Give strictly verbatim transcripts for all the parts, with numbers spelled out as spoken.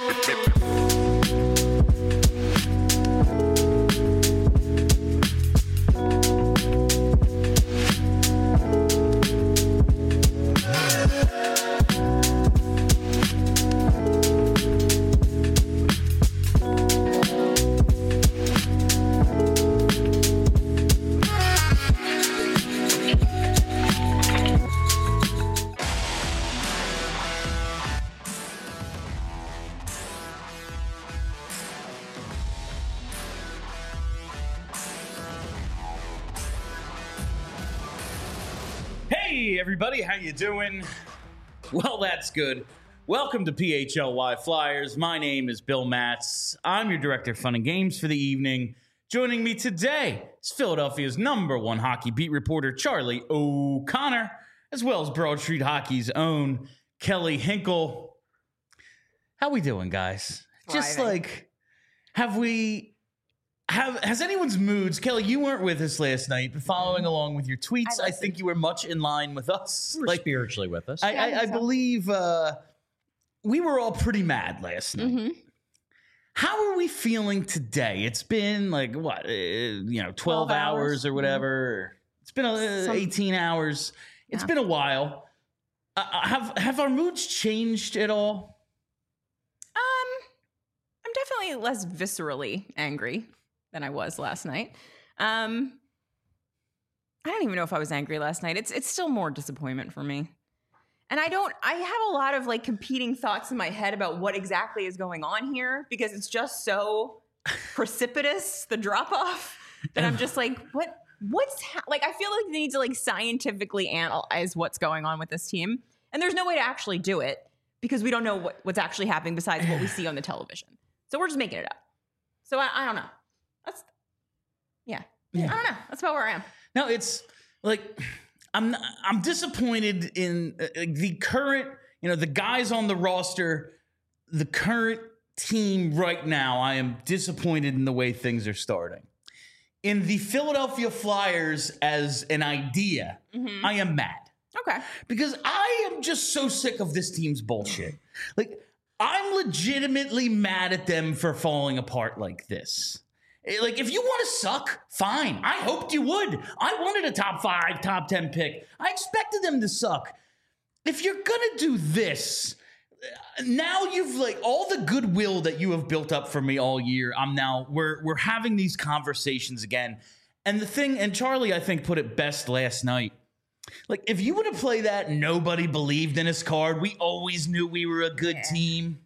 Hey everybody, how you doing? Well, that's good. Welcome to P H L Y Flyers. My name is Bill Matz. I'm your director of fun and games for the evening. Joining me today is Philadelphia's number one hockey beat reporter, Charlie O'Connor, as well as Broad Street Hockey's own Kelly Hinkle. How we doing, guys? Thriving. Just like, have we... Have, has anyone's moods, Kelly, you weren't with us last night, but following along with your tweets, I, I think you were much in line with us. You were like, spiritually with us. I, I, I, I believe uh, we were all pretty mad last night. Mm-hmm. How are we feeling today? It's been like, what, uh, you know, twelve, twelve hours, hours or whatever. Mm-hmm. It's been uh, Some, eighteen hours. It's yeah. been a while. Uh, have, have our moods changed at all? Um, I'm definitely less viscerally angry than I was last night. Um, I don't even know if I was angry last night. It's it's still more disappointment for me. And I don't, I have a lot of like competing thoughts in my head about what exactly is going on here because it's just so precipitous, the drop off, that I'm just like, what, what's, ha-? like, I feel like they need to like scientifically analyze what's going on with this team. And there's no way to actually do it because we don't know what, what's actually happening besides what we see on the television. So we're just making it up. So I, I don't know. That's, yeah. yeah. I don't know. That's about where I am. No, it's like, I'm I'm disappointed in uh, the current, you know, the guys on the roster, the current team right now. I am disappointed in the way things are starting. In the Philadelphia Flyers as an idea, mm-hmm. I am mad. Okay. Because I am just so sick of this team's bullshit. Like, I'm legitimately mad at them for falling apart like this. Like, if you want to suck, fine. I hoped you would. I wanted a top five, top ten pick. I expected them to suck. If you're going to do this, now you've, like, all the goodwill that you have built up for me all year, I'm now, we're, we're having these conversations again. And the thing, and Charlie, I think, put it best last night. Like, if you would have played that nobody believed in us card, we always knew we were a good yeah. team.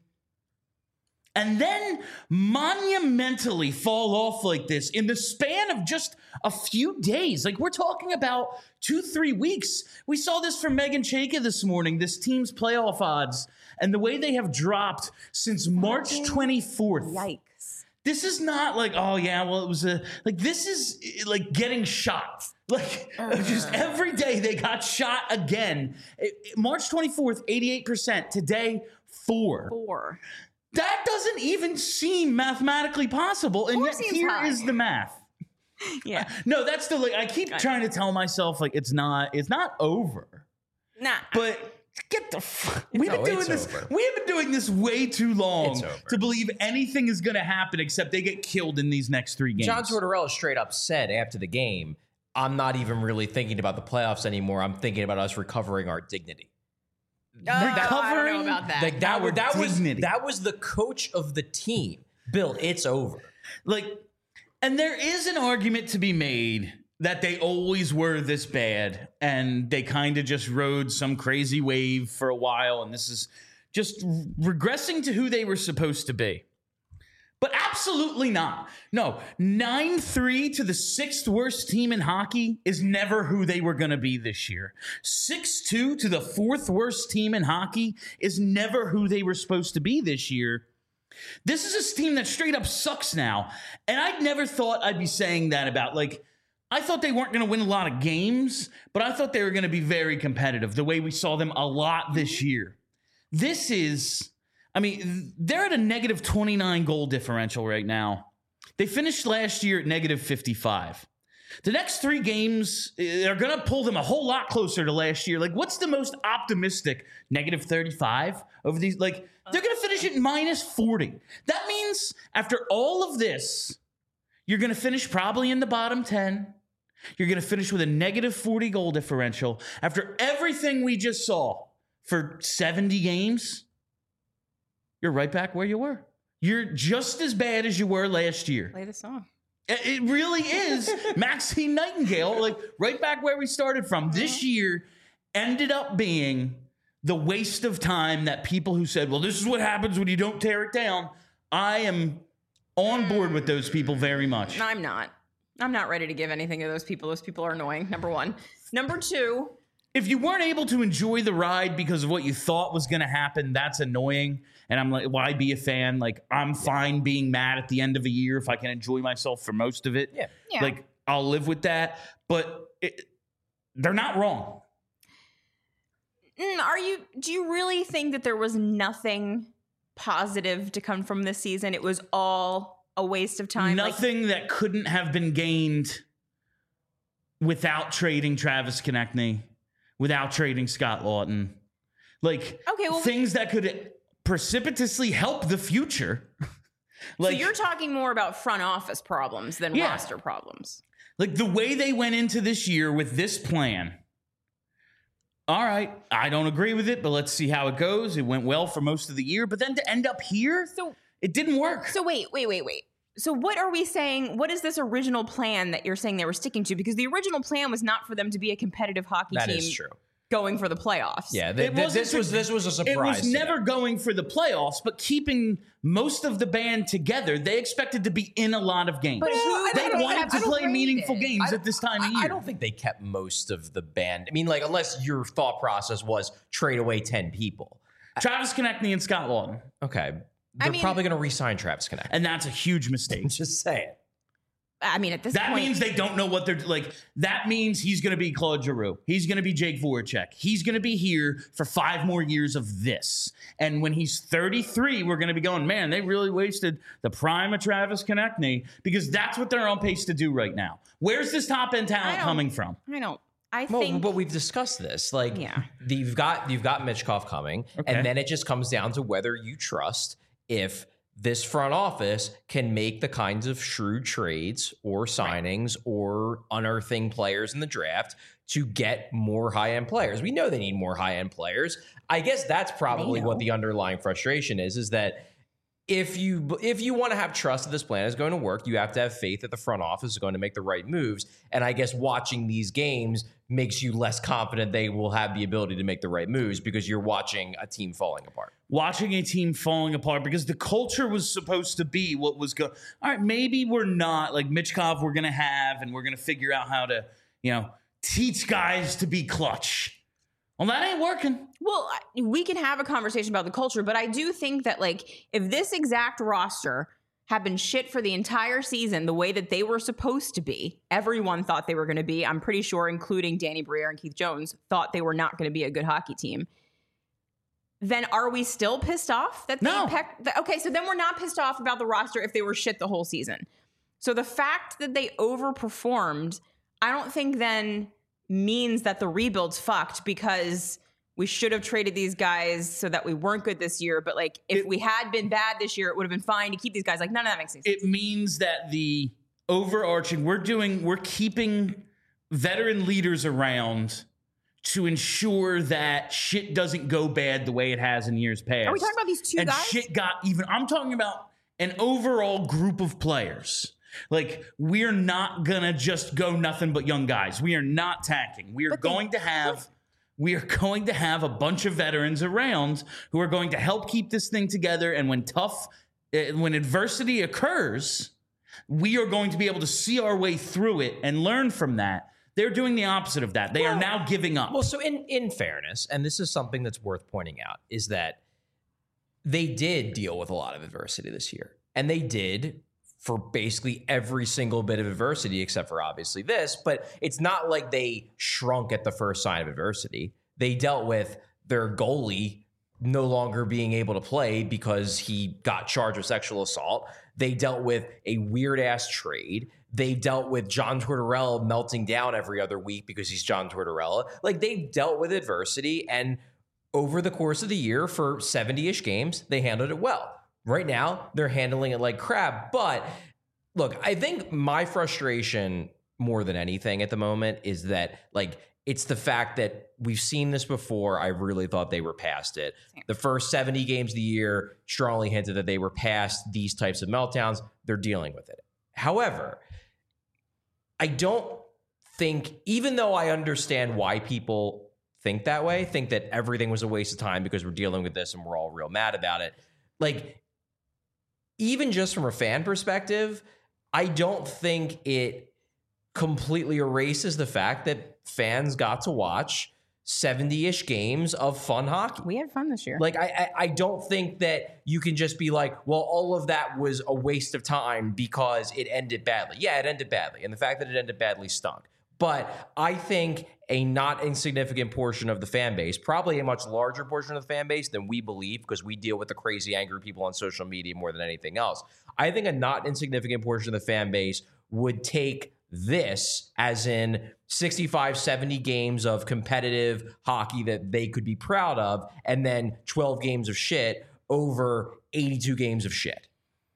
And then monumentally fall off like this in the span of just a few days. Like, we're talking about two, three weeks. We saw this from Megan Chayka this morning, this team's playoff odds, and the way they have dropped since March twenty-fourth. Yikes. This is not like, oh, yeah, well, it was a, like, this is like getting shot. Like, uh. just every day they got shot again. It, it, March twenty-fourth, eighty-eight percent. Today, four. Four. That doesn't even seem mathematically possible, and Four yet here high. is the math. Yeah. No, that's still like I keep Got trying it. to tell myself like it's not it's not over. Nah. But get the fuck. We've been no, doing this. Over. We have been doing this way too long to believe anything is going to happen except they get killed in these next three games. John Tortorella straight up said after the game, "I'm not even really thinking about the playoffs anymore. I'm thinking about us recovering our dignity." Uh, I don't know about that. Like that, Our that was dignity. that was the coach of the team. Bill, it's over. Like, and there is an argument to be made that they always were this bad and they kind of just rode some crazy wave for a while, and this is just regressing to who they were supposed to be. But absolutely not. No, nine three to the sixth worst team in hockey is never who they were going to be this year. six two to the fourth worst team in hockey is never who they were supposed to be this year. This is a team that straight up sucks now. And I'd never thought I'd be saying that about, like, I thought they weren't going to win a lot of games, but I thought they were going to be very competitive the way we saw them a lot this year. This is... I mean, they're at a negative twenty-nine goal differential right now. They finished last year at negative fifty-five. The next three games are going to pull them a whole lot closer to last year. Like, what's the most optimistic? Negative thirty-five over these? Like, they're going to finish at minus forty. That means after all of this, you're going to finish probably in the bottom ten. You're going to finish with a negative forty goal differential. After everything we just saw for seventy games, you're right back where you were. You're just as bad as you were last year. Play the song. It really is Maxine Nightingale, like right back where we started from. This year ended up being the waste of time that people who said, well, this is what happens when you don't tear it down. I am on board with those people very much. No, I'm not. I'm not ready to give anything to those people. Those people are annoying, number one. Number two. If you weren't able to enjoy the ride because of what you thought was going to happen, that's annoying. And I'm like, why be a fan? Like, I'm fine being mad at the end of a year if I can enjoy myself for most of it. Yeah. Yeah. Like, I'll live with that. But it, they're not wrong. Mm, Are you, do you really think that there was nothing positive to come from this season? It was all a waste of time? Nothing like, that couldn't have been gained without trading Travis Konechny, without trading Scott Lawton. Like, okay, well, things that could precipitously help the future. Like, so you're talking more about front office problems than Yeah. roster problems. Like the way they went into this year with this plan. All right, I don't agree with it, but let's see how it goes. It went well for most of the year, but then to end up here, So, it didn't work. so wait, wait, wait, wait. So what are we saying? What is this original plan that you're saying they were sticking to? Because the original plan was not for them to be a competitive hockey That team is true. going for the playoffs. Yeah, th- It th- wasn't this to- was this was a surprise. It was to never them. going for the playoffs, but keeping most of the band together. They expected to be in a lot of games. But who- I They don't wanted have to to play rate meaningful it. games I at this time of I- year. I don't think they kept most of the band. I mean, like, unless your thought process was trade away ten people. Travis Konechny and Scott Lawton. Okay. I They're mean- probably going to re-sign Travis Konechny. And that's a huge mistake. Just saying. I mean, at this That point, means they don't know what they're like. That means he's going to be Claude Giroux. He's going to be Jake Voracek. He's going to be here for five more years of this. And when he's thirty-three, we're going to be going, man, they really wasted the prime of Travis Konechny, because that's what they're on pace to do right now. Where's this top end I talent don't- coming from? I don't. I Well, think. but we've discussed this. Like, Yeah. the- you've got you've got Mitchkov coming, Okay. and then it just comes down to whether you trust if this front office can make the kinds of shrewd trades or signings or unearthing players in the draft to get more high-end players. We know they need more high-end players. I guess that's probably know. what the underlying frustration is, is that if you if you want to have trust that this plan is going to work, you have to have faith that the front office is going to make the right moves. And I guess watching these games makes you less confident they will have the ability to make the right moves because you're watching a team falling apart. Watching a team falling apart because the culture was supposed to be what was going. All right, maybe we're not like Mitchkov. We're going to have, and we're going to figure out how to, you know, teach guys to be clutch. Well, that ain't working. Well, I- we can have a conversation about the culture, but I do think that, like, if this exact roster had been shit for the entire season the way that they were supposed to be, everyone thought they were going to be, I'm pretty sure, including Danny Briere and Keith Jones, thought they were not going to be a good hockey team. Then are we still pissed off that they No. pecked? th- okay, so then we're not pissed off about the roster if they were shit the whole season. So the fact that they overperformed, I don't think then means that the rebuild's fucked because we should have traded these guys so that we weren't good this year. But like, if It- we had been bad this year, it would have been fine to keep these guys. Like, none of that makes any sense. It means that the overarching, we're doing, we're keeping veteran leaders around to ensure that shit doesn't go bad the way it has in years past. Are we talking about these two and guys? shit got even. I'm talking about an overall group of players. Like, we're not gonna just go nothing but young guys. We are not tacking. We are But they- going to have we are going to have a bunch of veterans around who are going to help keep this thing together. And when tough, eh, when adversity occurs, we are going to be able to see our way through it and learn from that. They're doing the opposite of that. They are now giving up. Well, so in in fairness, and this is something that's worth pointing out, is that they did deal with a lot of adversity this year. And they did for basically every single bit of adversity, except for obviously this, but it's not like they shrunk at the first sign of adversity. They dealt with their goalie no longer being able to play because he got charged with sexual assault. They dealt with a weird ass trade. They dealt with John Tortorella melting down every other week because he's John Tortorella. Like, they've dealt with adversity, and over the course of the year for seventy-ish games, they handled it well. Right now, they're handling it like crap. But look, I think my frustration more than anything at the moment is that, like, it's the fact that we've seen this before. I really thought they were past it. The first seventy games of the year strongly hinted that they were past these types of meltdowns. They're dealing with it. However, I don't think, even though I understand why people think that way, think that everything was a waste of time because we're dealing with this and we're all real mad about it. Like, even just from a fan perspective, I don't think it completely erases the fact that fans got to watch seventy-ish games of fun hockey. We had fun this year. Like, I, I I don't think that you can just be like, well, all of that was a waste of time because it ended badly. Yeah, it ended badly. And the fact that it ended badly stunk. But I think a not insignificant portion of the fan base, probably a much larger portion of the fan base than we believe, because we deal with the crazy, angry people on social media more than anything else. I think a not insignificant portion of the fan base would take this as in sixty-five, seventy games of competitive hockey that they could be proud of, and then twelve games of shit over eighty-two games of shit.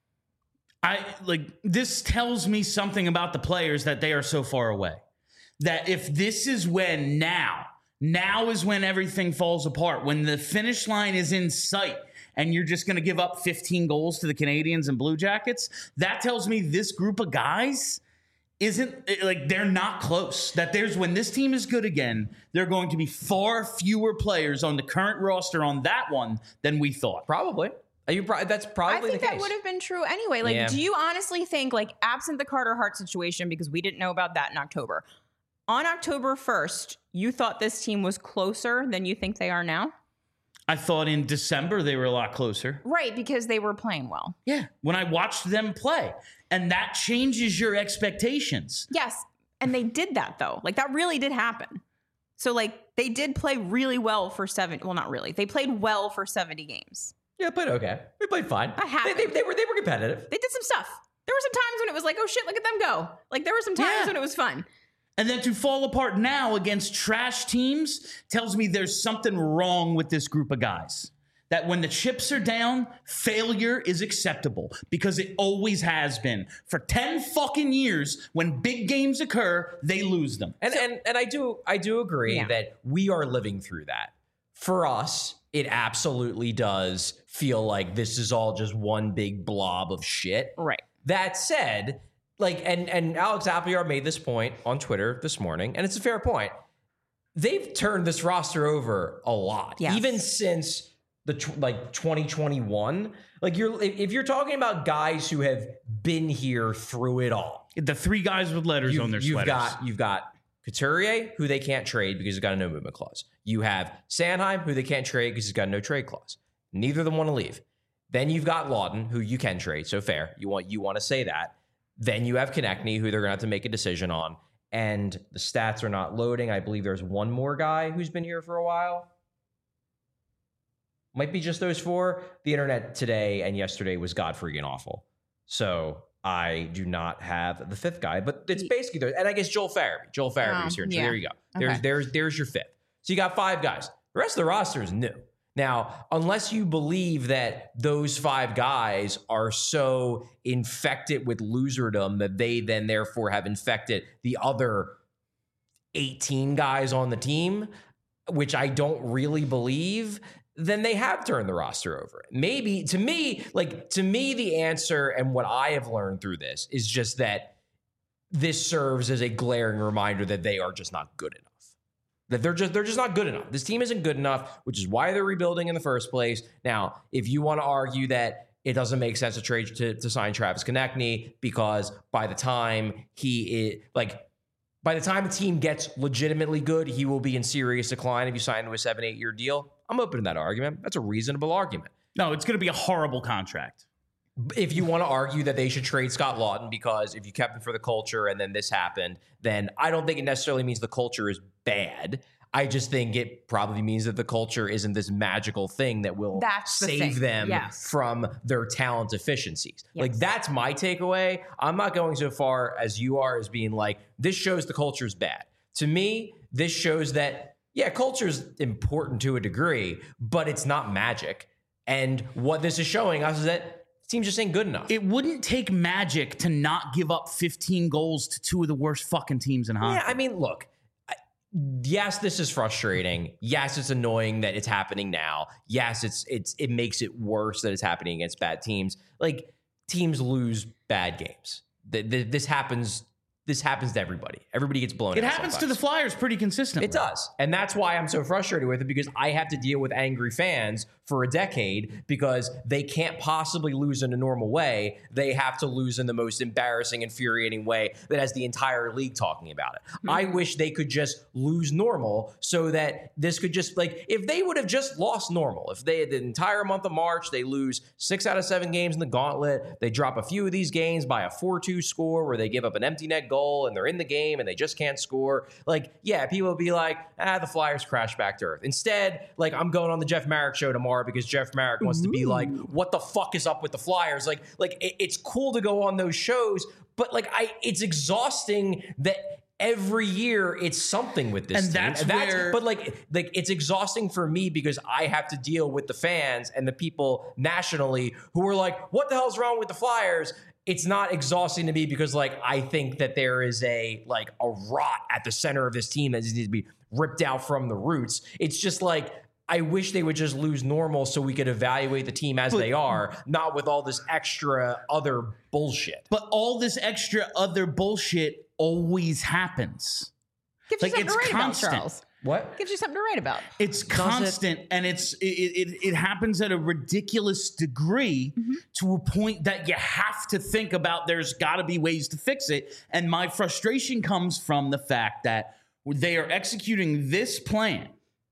I like this tells me something about the players that they are so far away. That if this is when now, now is when everything falls apart, when the finish line is in sight and you're just going to give up fifteen goals to the Canadians and Blue Jackets, that tells me this group of guys isn't, like, they're not close. That there's, when this team is good again, there are going to be far fewer players on the current roster on that one than we thought. Probably. Are you pro- that's probably I think the that case. would have been true anyway. Like, Yeah. do you honestly think, like, absent the Carter Hart situation, because we didn't know about that in October, on October first, you thought this team was closer than you think they are now? I thought in December they were a lot closer. Right, because they were playing well. Yeah, when I watched them play. And that changes your expectations. Yes, and they did that, though. Like, that really did happen. So, like, they did play really well for seven. Well, not really. They played well for seventy games. Yeah, played okay. We played fine. I haven't. They, they, they were they were competitive. They did some stuff. There were some times when it was like, oh, shit, look at them go. Like, there were some times Yeah. when it was fun. And then to fall apart now against trash teams tells me there's something wrong with this group of guys. That when the chips are down, failure is acceptable because it always has been. For ten fucking years, when big games occur, they lose them. And and and I do I do agree Yeah. that we are living through that. For us, it absolutely does feel like this is all just one big blob of shit. Right. That said, like, and and Alex Appleyard made this point on Twitter this morning, and it's a fair point. They've turned this roster over a lot, Yes. even since the tw- like twenty twenty-one. Like, you're if if you're talking about guys who have been here through it all, The three guys with letters you've, on their you've sweaters. got you've got Couturier, who they can't trade because he's got a no movement clause. You have Sanheim, who they can't trade because he's got a no trade clause. Neither of them want to leave. Then you've got Lawton, who you can trade. So fair. You want you want to say that. Then you have Konechny, who they're going to have to make a decision on. And the stats are not loading. I believe there's one more guy who's been here for a while. Might be just those four. The internet today and yesterday was god freaking awful. So I do not have the fifth guy, but it's basically there. And I guess Joel Farabee. Joel Farabee Oh, is here. So yeah. there you go. There's Okay. there's there's your fifth. So you got five guys. The rest of the roster is new. Now, unless you believe that those five guys are so infected with loserdom that they then therefore have infected the other eighteen guys on the team, which I don't really believe, then they have turned the roster over. Maybe, to me, like, to me, the answer and what I have learned through this is just that this serves as a glaring reminder that they are just not good enough. That they're just they're just not good enough. This team isn't good enough, which is why they're rebuilding in the first place. Now, if you want to argue that it doesn't make sense to trade to, to sign Travis Konechny because by the time he is like by the time the team gets legitimately good, he will be in serious decline if you sign him to a seven, eight year deal. I'm open to that argument. That's a reasonable argument. No, it's going to be a horrible contract. If you want to argue that they should trade Scott Lawton because if you kept him for the culture and then this happened, then I don't think it necessarily means the culture is bad. I just think it probably means that the culture isn't this magical thing that will That's the save thing. them Yes. from their talent deficiencies. Like, Yes. that's my takeaway. I'm not going so far as you are as being like, this shows the culture's bad. To me, this shows that, yeah, culture's important to a degree, but it's not magic. And what this is showing us is that teams just ain't good enough. It wouldn't take magic to not give up fifteen goals to two of the worst fucking teams in hockey. Yeah, I mean, look, I- yes, this is frustrating. Yes, it's annoying that it's happening now. Yes, it's it's it makes it worse that it's happening against bad teams. Like, teams lose bad games. Th- th- This happens. This happens to everybody. Everybody gets blown It out happens sometimes. to the Flyers pretty consistently. It does. And that's why I'm so frustrated with it, because I have to deal with angry fans for a decade because they can't possibly lose in a normal way. They have to lose in the most embarrassing, infuriating way that has the entire league talking about it. Mm-hmm. I wish they could just lose normal so that this could just, like, if they would have just lost normal, if they, the entire month of March, they lose six out of seven games in the gauntlet, they drop a few of these games by a four two score where they give up an empty net goal and they're in the game and they just can't score. Like, yeah, people will be like, ah, the Flyers crash back to earth. Instead, like, I'm going on the Jeff Marek show tomorrow because Jeff Marek wants Ooh. to be like, what the fuck is up with the Flyers? Like, like it, it's cool to go on those shows, but like, I, it's exhausting that every year it's something with this and team. That's and that's where, but like, like it's exhausting for me because I have to deal with the fans and the people nationally who are like, what the hell's wrong with the Flyers? It's not exhausting to me because, like, I think that there is a, like, a rot at the center of this team that needs to be ripped out from the roots. It's just like, I wish they would just lose normal so we could evaluate the team as but, they are, not with all this extra other bullshit. But all this extra other bullshit always happens. Gives like, you something it's to write constant. About, Charles. What? Gives you something to write about. It's constant, it? and it's it, it it happens at a ridiculous degree mm-hmm. to a point that you have to think about there's got to be ways to fix it. And my frustration comes from the fact that they are executing this plan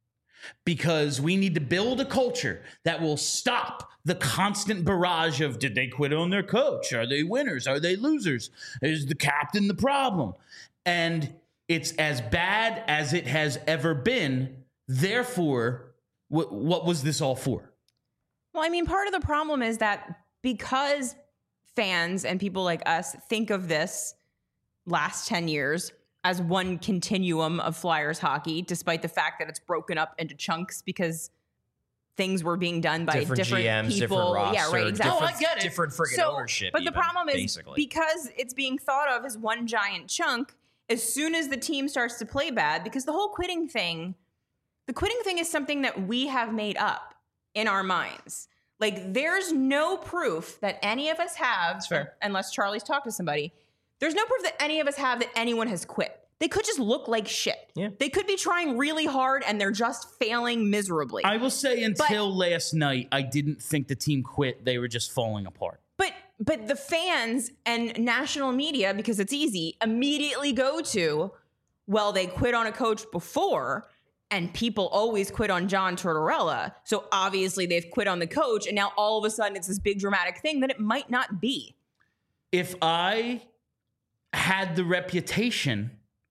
because we need to build a culture that will stop the constant barrage of, did they quit on their coach? Are they winners? Are they losers? Is the captain the problem? And it's as bad as it has ever been. Therefore, wh- what was this all for? Well, I mean, part of the problem is that because fans and people like us think of this last ten years as one continuum of Flyers hockey, despite the fact that it's broken up into chunks because things were being done by different, different G Ms, people. Different roster, yeah, right, exactly. Oh, I get it. Different friggin' so, ownership. But even, the problem is basically. because it's being thought of as one giant chunk, as soon as the team starts to play bad, because the whole quitting thing, the quitting thing is something that we have made up in our minds. Like, there's no proof that any of us have, unless Charlie's talked to somebody, there's no proof that any of us have that anyone has quit. They could just look like shit. Yeah. They could be trying really hard and they're just failing miserably. I will say until but, last night, I didn't think the team quit. They were just falling apart. But but the fans and national media, because it's easy, immediately go to, well, they quit on a coach before, and people always quit on John Tortorella. So obviously they've quit on the coach, and now all of a sudden it's this big dramatic thing that it might not be. If I had the reputation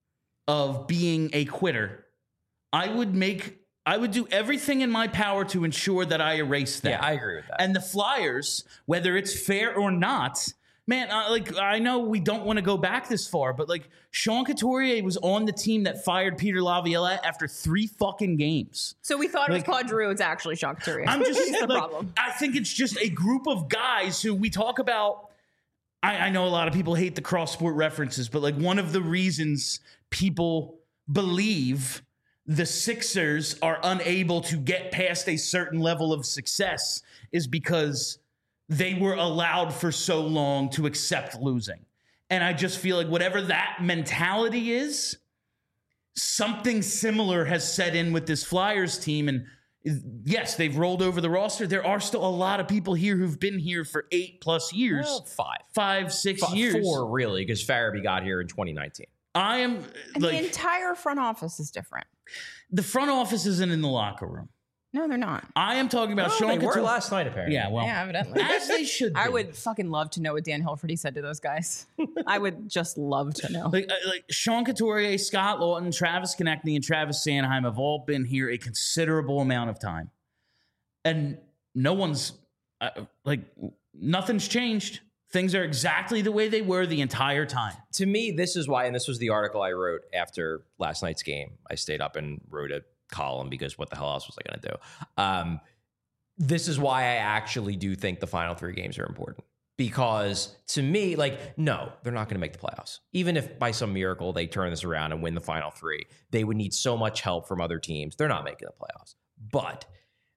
of being a quitter, I would make I would do everything in my power to ensure that I erase that. Yeah, I agree with that. And the Flyers, whether it's fair or not, man, uh, like, I know we don't want to go back this far, but like, Sean Couturier was on the team that fired Peter Laviolette after three fucking games. So we thought like, it was Claude Giroux. It's actually Sean Couturier. I'm just the like, problem. I think it's just a group of guys who we talk about. I, I know a lot of people hate the cross sport references, but like, one of the reasons people believe the Sixers are unable to get past a certain level of success is because they were allowed for so long to accept losing. And I just feel like whatever that mentality is, something similar has set in with this Flyers team. And yes, they've rolled over the roster. There are still a lot of people here who've been here for eight plus years. Well, five. Five, six five, years. Four, really, because Farabee got here in twenty nineteen. I am and like, the entire front office is different. The front office isn't in the locker room. No, they're not. I am talking about Oh, Sean they were Couturier. last night, apparently. Yeah, well, Yeah, evidently. as they should be. I would fucking love to know what Dan Hilferty said to those guys. I would just love to know. Like, uh, like Sean Couturier, Scott Lawton, Travis Konechny, and Travis Sanheim have all been here a considerable amount of time. And no one's, uh, like, nothing's changed. Things are exactly the way they were the entire time. To me, this is why, and this was the article I wrote after last night's game. I stayed up and wrote a column because what the hell else was I going to do? Um, this is why I actually do think the final three games are important. Because to me, like, no, they're not going to make the playoffs. Even if by some miracle they turn this around and win the final three, they would need so much help from other teams. They're not making the playoffs. But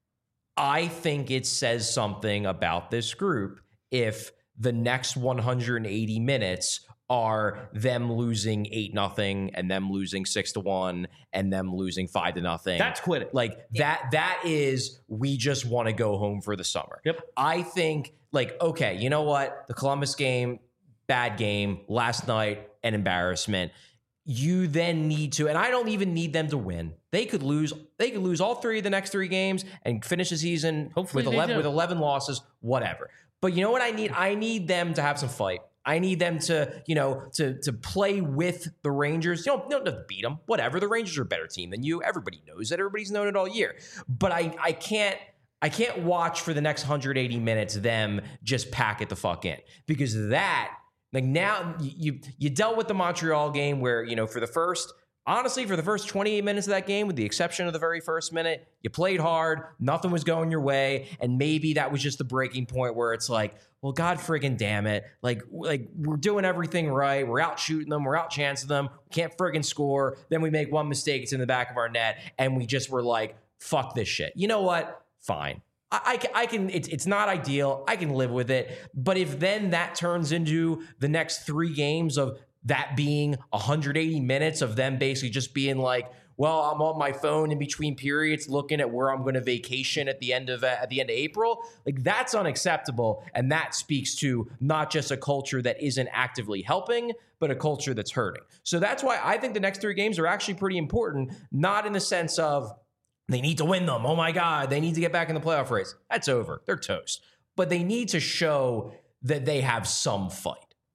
I think it says something about this group if the next one hundred eighty minutes are them losing eight nothing and them losing six to one and them losing five to nothing. That's quitting. Like that, that is, we just want to go home for the summer. Yep. I think like, okay, you know what? The Columbus game, bad game last night, an embarrassment. You then need to, and I don't even need them to win. They could lose, they could lose all three of the next three games and finish the season Hopefully with they eleven do. with eleven losses, whatever. But you know what I need? I need them to have some fight. I need them to, you know, to to play with the Rangers. You don't, you don't have to beat them. Whatever. The Rangers are a better team than you. Everybody knows that. Everybody's known it all year. But I I can't I can't watch for the next one hundred eighty minutes them just pack it the fuck in, because that, like, now you you dealt with the Montreal game where, you know, for the first, honestly, for the first twenty-eight minutes of that game, with the exception of the very first minute, you played hard, nothing was going your way, and maybe that was just the breaking point where it's like, well, God friggin' damn it. Like, like we're doing everything right. We're out shooting them. We're out chancing them. We can't friggin' score. Then we make one mistake. It's in the back of our net. And we just were like, fuck this shit. You know what? Fine. I, I can, I can it's, it's not ideal. I can live with it. But if then that turns into the next three games of that being one hundred eighty minutes of them basically just being like, well, I'm on my phone in between periods looking at where I'm going to vacation at the end of uh, at the end of April. Like, that's unacceptable, and that speaks to not just a culture that isn't actively helping, but a culture that's hurting. So that's why I think the next three games are actually pretty important, not in the sense of they need to win them. Oh my God, they need to get back in the playoff race. That's over. They're toast. But they need to show that they have some fight.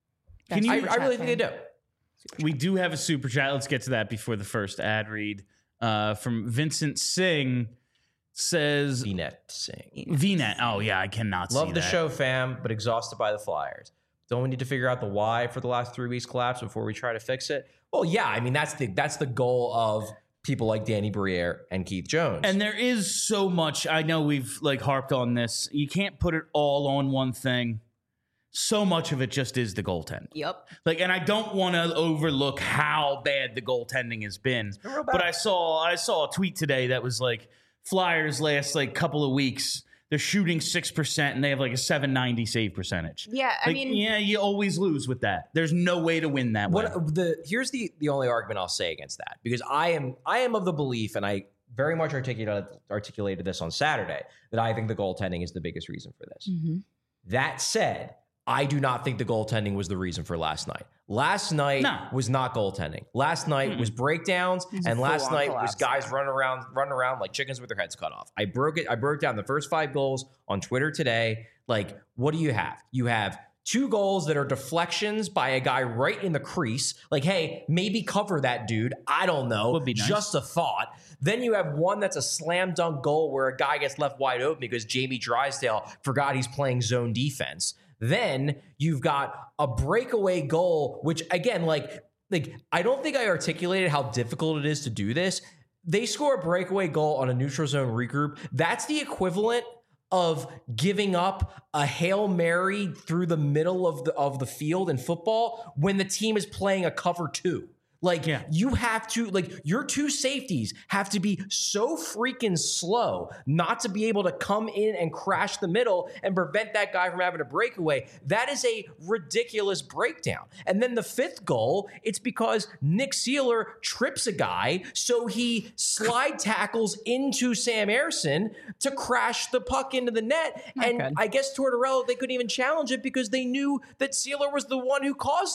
Can I, you- I really think they do. We do have a super chat. Let's get to that before the first ad read. Uh, from Vincent Singh says V net sing. V net. Oh yeah, I cannot see Love the that. show, fam, but exhausted by the Flyers. Don't we need to figure out the why for the last three weeks collapse before we try to fix it? Well, yeah, I mean that's the that's the goal of people like Danny Briere and Keith Jones. And there is so much. I know we've like harped on this. You can't put it all on one thing. So much of it just is the goaltend. Yep. Like, and I don't want to overlook how bad the goaltending has been. real bad. But I saw I saw a tweet today that was like, Flyers last like couple of weeks, they're shooting six percent and they have like a seven ninety save percentage. Yeah, I Like, mean, yeah, you always lose with that. There's no way to win that way. What the here's the the only argument I'll say against that, because I am I am of the belief, and I very much articulated articulated this on Saturday, that I think the goaltending is the biggest reason for this. Mhm. That said, I do not think the goaltending was the reason for last night. Last night No. was not goaltending. Last night Mm-mm. was breakdowns, was a and last full-on night was collapse. guys running around, running around like chickens with their heads cut off. I broke it. I broke down the first five goals on Twitter today. Like, what do you have? You have two goals that are deflections by a guy right in the crease. Like, hey, maybe cover that dude. I don't know. Would be nice. Just a thought. Then you have one that's a slam dunk goal where a guy gets left wide open because Jamie Drysdale forgot he's playing zone defense. Then you've got a breakaway goal, which again, like, like I don't think I articulated how difficult it is to do this. They score a breakaway goal on a neutral zone regroup. That's the equivalent of giving up a Hail Mary through the middle of the of the field in football when the team is playing a cover two. Like, Yeah. you have to, like, your two safeties have to be so freaking slow not to be able to come in and crash the middle and prevent that guy from having a breakaway. That is a ridiculous breakdown. And then the fifth goal, it's because Nick Seeler trips a guy, so he slide tackles into Sam Ersson to crash the puck into the net. Not and good. I guess Tortorella, they couldn't even challenge it because they knew that Seeler was the one who caused it.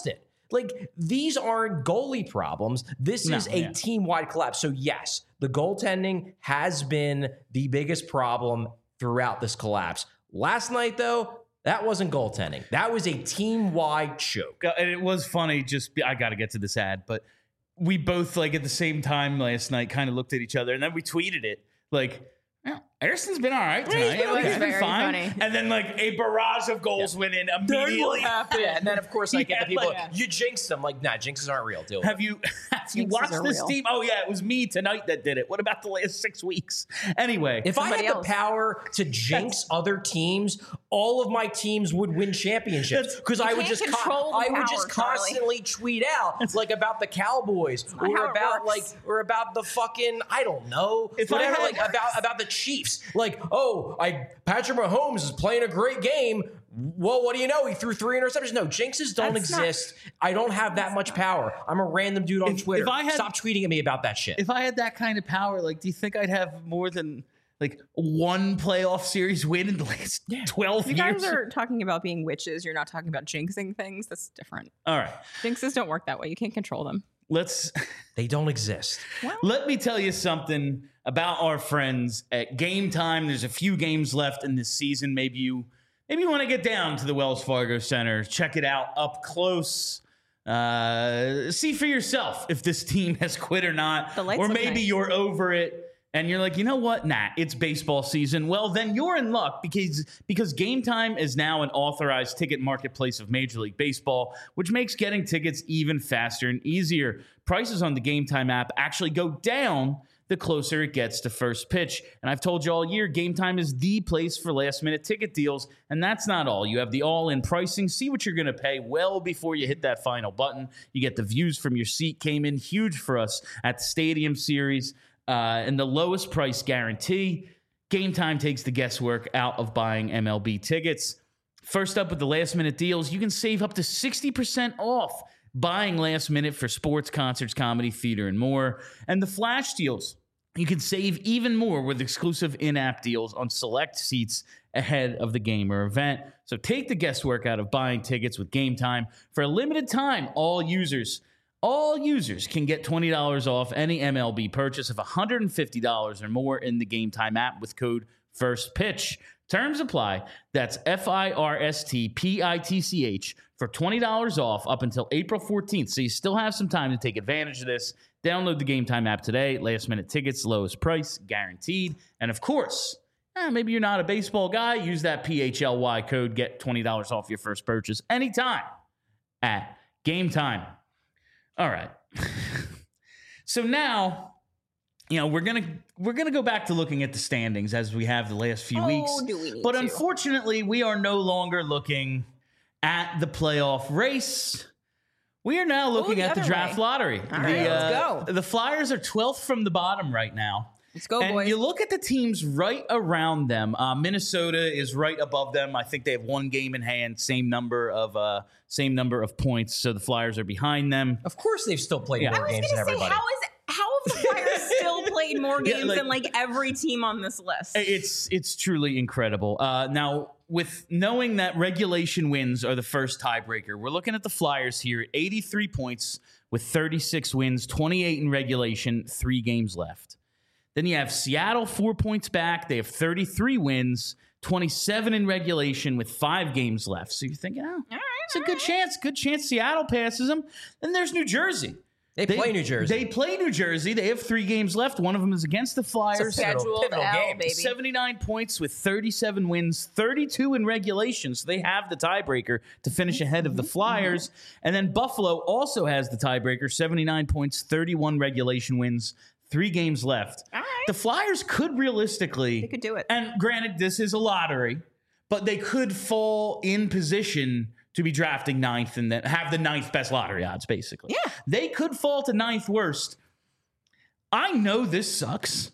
Like, these aren't goalie problems. This No, is a yeah. team-wide collapse. So, yes, the goaltending has been the biggest problem throughout this collapse. Last night, though, that wasn't goaltending. That was a team-wide choke. Uh, And it was funny. Just I got to get to this ad, but we both like at the same time last night kind of looked at each other, and then we tweeted it like. "Yeah, Harrison's been all right tonight. It was He's been very fine." funny. And then like a barrage of goals went in immediately. Yeah, and then, of course, I get Yeah, the people, like- you jinxed them. Like, nah, jinxes aren't real. Deal with Have you have you Jinxes watched are this real. team? Oh yeah, it was me tonight that did it. What about the last six weeks? Anyway, If I had Somebody the else. power to jinx other teams, all of my teams would win championships because I would can't just co- control the I would power, just Charlie. constantly tweet out like about the Cowboys not or how it about like works. or about the fucking I don't know If I whatever had- like about about the Chiefs. Like, oh, I Patrick Mahomes is playing a great game. Well, what do you know? He threw three interceptions. No, jinxes don't That's not- exist. I don't have that much power. I'm a random dude on If- Twitter. if I had- Stop tweeting at me about that shit. if I had that kind of power, like, do you think I'd have more than like one playoff series win in the last twelve You years? guys are talking about being witches. You're not talking about jinxing things. That's different. All right, Jinxes don't work that way. You can't control them. let's They don't exist. let me tell you something about our friends at Game Time. There's a few games left in this season. Maybe you maybe you want to get down to the Wells Fargo Center, check it out up close. Uh, see for yourself if this team has quit or not, The lights or look maybe nice. you're over it and you're like, you know what? Nah, it's baseball season. Well, then you're in luck because because Game Time is now an authorized ticket marketplace of Major League Baseball, which makes getting tickets even faster and easier. Prices on the Game Time app actually go down the closer it gets to first pitch. And I've told you all year, Game Time is the place for last-minute ticket deals. And that's not all. You have the all-in pricing. See what you're going to pay well before you hit that final button. You get the views from your seat. Came in huge for us at the Stadium Series. Uh, and the lowest price guarantee. Game Time takes the guesswork out of buying M L B tickets. First up with the last-minute deals, you can save up to sixty percent off buying last minute for sports, concerts, comedy, theater, and more. And the flash deals, you can save even more with exclusive in-app deals on select seats ahead of the game or event. So take the guesswork out of buying tickets with Game Time. For a limited time, all users, all users can get twenty dollars off any M L B purchase of one hundred fifty dollars or more in the Game Time app with code FIRSTPITCH. Terms apply. That's F I R S T P I T C H for twenty dollars off up until April fourteenth. So you still have some time to take advantage of this. Download the Game Time app today. Last minute tickets, lowest price, guaranteed. And of course, eh, maybe you're not a baseball guy. Use that P H L Y code. Get twenty dollars off your first purchase anytime at Game Time. All right. So now, you know, we're gonna we're gonna go back to looking at the standings as we have the last few Oh, weeks. do we need but to? unfortunately, we are no longer looking at the playoff race. We are now looking the at the other draft way. lottery. All right, the, let's uh, go. The Flyers are twelfth from the bottom right now. Let's go, And boys. you look at the teams right around them. Uh, Minnesota is right above them. I think they have one game in hand, same number of uh, same number of points. So the Flyers are behind them. Of course, they've still played Yeah. more I was games going than to say, everybody. how is how have the Flyers still played more Yeah, games like- than like every team on this list? It's it's truly incredible. Uh, now, with knowing that regulation wins are the first tiebreaker, we're looking at the Flyers here at eighty-three points with thirty-six wins, twenty-eight in regulation, three games left. Then you have Seattle, four points back. They have thirty-three wins, twenty-seven in regulation with five games left. So you're thinking, oh, it's a good chance. Good chance Seattle passes them. Then there's New Jersey. They, play New Jersey. They play New Jersey. They have three games left. One of them is against the Flyers. Scheduled pivotal L, game. baby. seventy-nine points with thirty-seven wins, thirty-two in regulation. So they have the tiebreaker to finish ahead of the Flyers. And then Buffalo also has the tiebreaker, seventy-nine points, thirty-one regulation wins, three games left. All right. The Flyers could realistically. They could do it. And granted, this is a lottery, but they could fall in position to be drafting ninth and then have the ninth best lottery odds, basically. Yeah. They could fall to ninth worst. I know this sucks.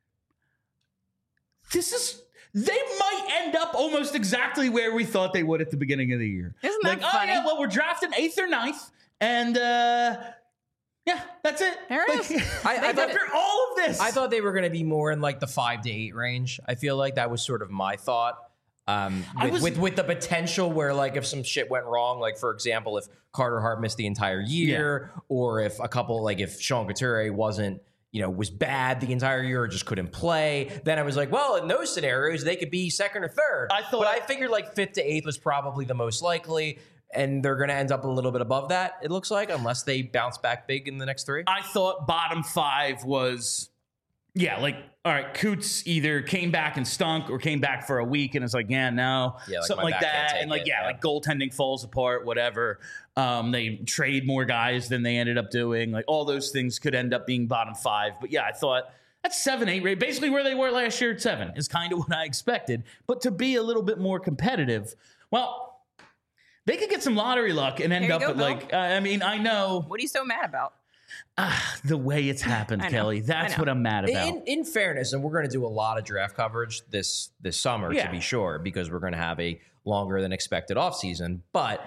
This is, they might end up almost exactly where we thought they would at the beginning of the year. Isn't that like, funny? oh yeah, well, we're drafting eighth or ninth, and uh, yeah, that's it. There it Like, is. I- I thought- after all of this, I thought they were going to be more in like the five to eight range. I feel like that was sort of my thought. Um, I with, was- with with the potential where, like, if some shit went wrong, like for example, if Carter Hart missed the entire year, or if a couple, like if Sean Couturier wasn't, you know, was bad the entire year or just couldn't play, then I was like, well, in those scenarios, they could be second or third. I thought- but I figured like fifth to eighth was probably the most likely, and they're going to end up a little bit above that. It looks like, unless they bounce back big in the next three. I thought bottom five was, yeah, like, all right, Coots either came back and stunk or came back for a week and it's like, yeah, no, Yeah, like, something my like back can't that. take And like, it, yeah, yeah. like goaltending falls apart, whatever. Um, they trade more guys than they ended up doing. Like all those things could end up being bottom five. But yeah, I thought that's seven, eight, right? Basically where they were last year at seven is kind of what I expected. But to be a little bit more competitive, well, they could get some lottery luck and end There you up go, at Bill. like, uh, I mean, I know What are you so mad about? ah, the way it's happened, I know. Kelly. That's I know. what I'm mad about. In, in fairness, and we're going to do a lot of draft coverage this this summer, Yeah. to be sure, because we're going to have a longer than expected offseason. But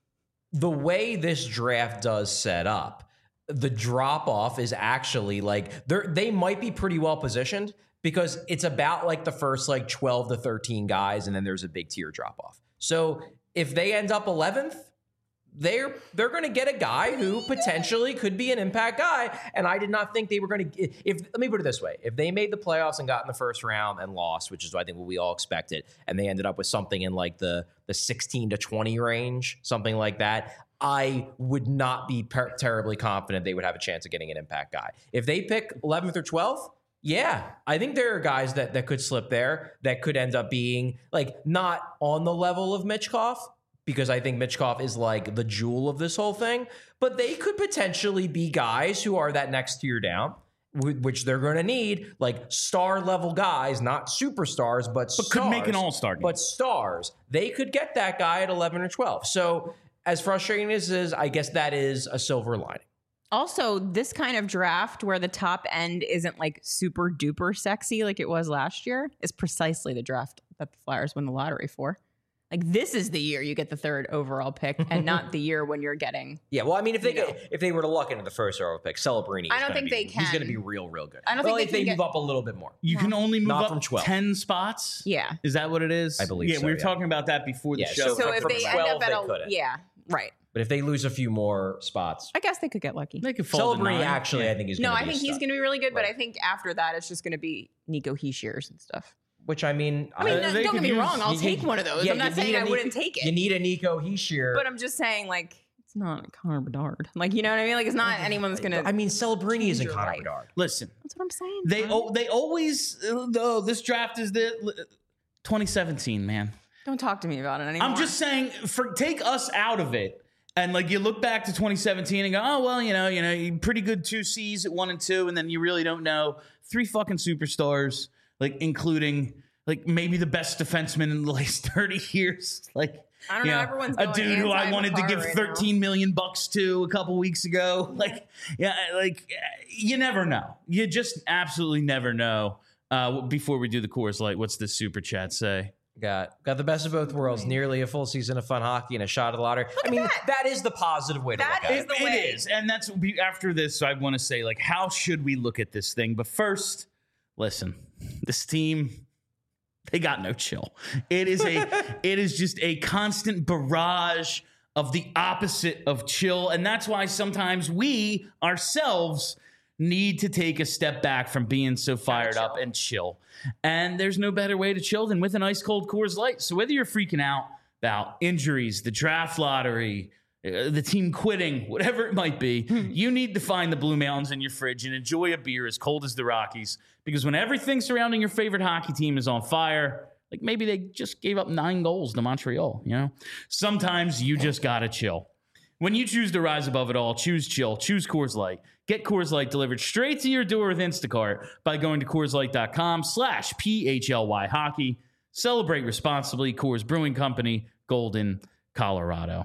the way this draft does set up, the drop off is actually like they they might be pretty well positioned because it's about like the first like twelve to thirteen guys, and then there's a big tier drop off. So if they end up eleventh, they're they're going to get a guy who potentially could be an impact guy. And I did not think they were going to. If let me put it this way: if they made the playoffs and got in the first round and lost, which is I think what we all expected, and they ended up with something in like the the sixteen to twenty range, something like that, I would not be per- terribly confident they would have a chance of getting an impact guy. If they pick eleventh or twelfth. Yeah, I think there are guys that, that could slip there that could end up being like not on the level of Mitchkov, because I think Mitchkov is like the jewel of this whole thing, but they could potentially be guys who are that next tier down, wh- which they're going to need, like star level guys, not superstars, but, But could make an stars, all-star game. But stars. They could get that guy at eleven or twelve. So as frustrating as it is, I guess that is a silver lining. Also, this kind of draft where the top end isn't like super duper sexy like it was last year is precisely the draft that the Flyers win the lottery for. Like this is the year you get the third overall pick and not the year when you're getting. Yeah, well, I mean, if they You know. get, if they were to luck into the first overall pick, Celebrini, I is don't gonna think be, they He's going to can. be real, real good. I don't well, think if they they can move get- up a little bit more. You can only move Not up from twelve. ten spots. Yeah. Is that what it is? I believe Yeah, so, we were yeah. talking about that before the Yeah, show. So from- if from they end twelve, up at they a couldn't. yeah, right. But if they lose a few more spots, I guess they could get lucky. they could fall to Celebrini nine. actually, Yeah. I think, is No, gonna I be a think he's stud. going to be really good, but Right. I think after that it's just going to be Nico Heishiers and stuff. Which, I mean, I mean, Uh, no, they don't could get me use- wrong. I'll you- take you- one of those. yeah, I'm you not saying need a I Ni- wouldn't take it. You need a Nico Heishier. But I'm just saying, like, it's not Connor Bedard. Like, you know what I mean? Like, it's not anyone that's gonna. I mean, Celebrini change isn't your Connor life. Bedard. Listen, That's what I'm saying. they Tom. oh, they always though this draft is the twenty seventeen, man. Don't talk to me about it anymore. I'm just saying, for take us out of it, and like you look back to twenty seventeen and go, oh well, you know, you know, you pretty good two C's at one and two, and then you really don't know three fucking superstars, like including like maybe the best defenseman in the last thirty years, like. I don't you know. Everyone's a going dude who I wanted to anti-Makar give right thirteen million bucks to a couple weeks ago. Like, yeah, like you never know. You just absolutely never know. Uh, before we do the Coors Light, what's the super chat say? Got got the best of both worlds. Nearly a full season of fun hockey and a shot of the lottery. I mean, that. that is the positive way to That look at is it. the It way. is, and that's after this. I want to say, like, how should we look at this thing? But first, listen, this team, they got no chill. It is a, it is just a constant barrage of the opposite of chill, and that's why sometimes we ourselves need to take a step back from being so fired chill. up and chill. And there's no better way to chill than with an ice cold Coors Light. So whether you're freaking out about injuries, the draft lottery, uh, the team quitting, whatever it might be, you need to find the Blue Mountains in your fridge and enjoy a beer as cold as the Rockies. Because when everything surrounding your favorite hockey team is on fire, like maybe they just gave up nine goals to Montreal, you know? Sometimes you just gotta chill. When you choose to rise above it all, choose chill, choose Coors Light. Get Coors Light delivered straight to your door with Instacart by going to CoorsLight.com slash P-H-L-Y hockey. Celebrate responsibly. Coors Brewing Company, Golden, Colorado.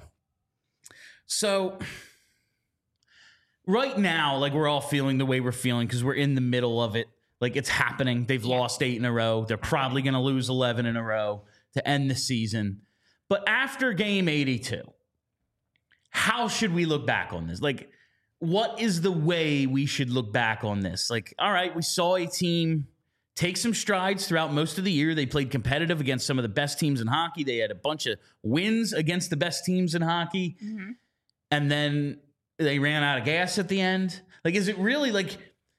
So right now, like we're all feeling the way we're feeling because we're in the middle of it. Like it's happening. They've lost eight in a row. They're probably going to lose eleven in a row to end the season. But after game eighty-two, how should we look back on this? Like, what is the way we should look back on this? Like, all right, we saw a team take some strides throughout most of the year. They played competitive against some of the best teams in hockey. They had a bunch of wins against the best teams in hockey. Mm-hmm. And then they ran out of gas at the end. Like, is it really like,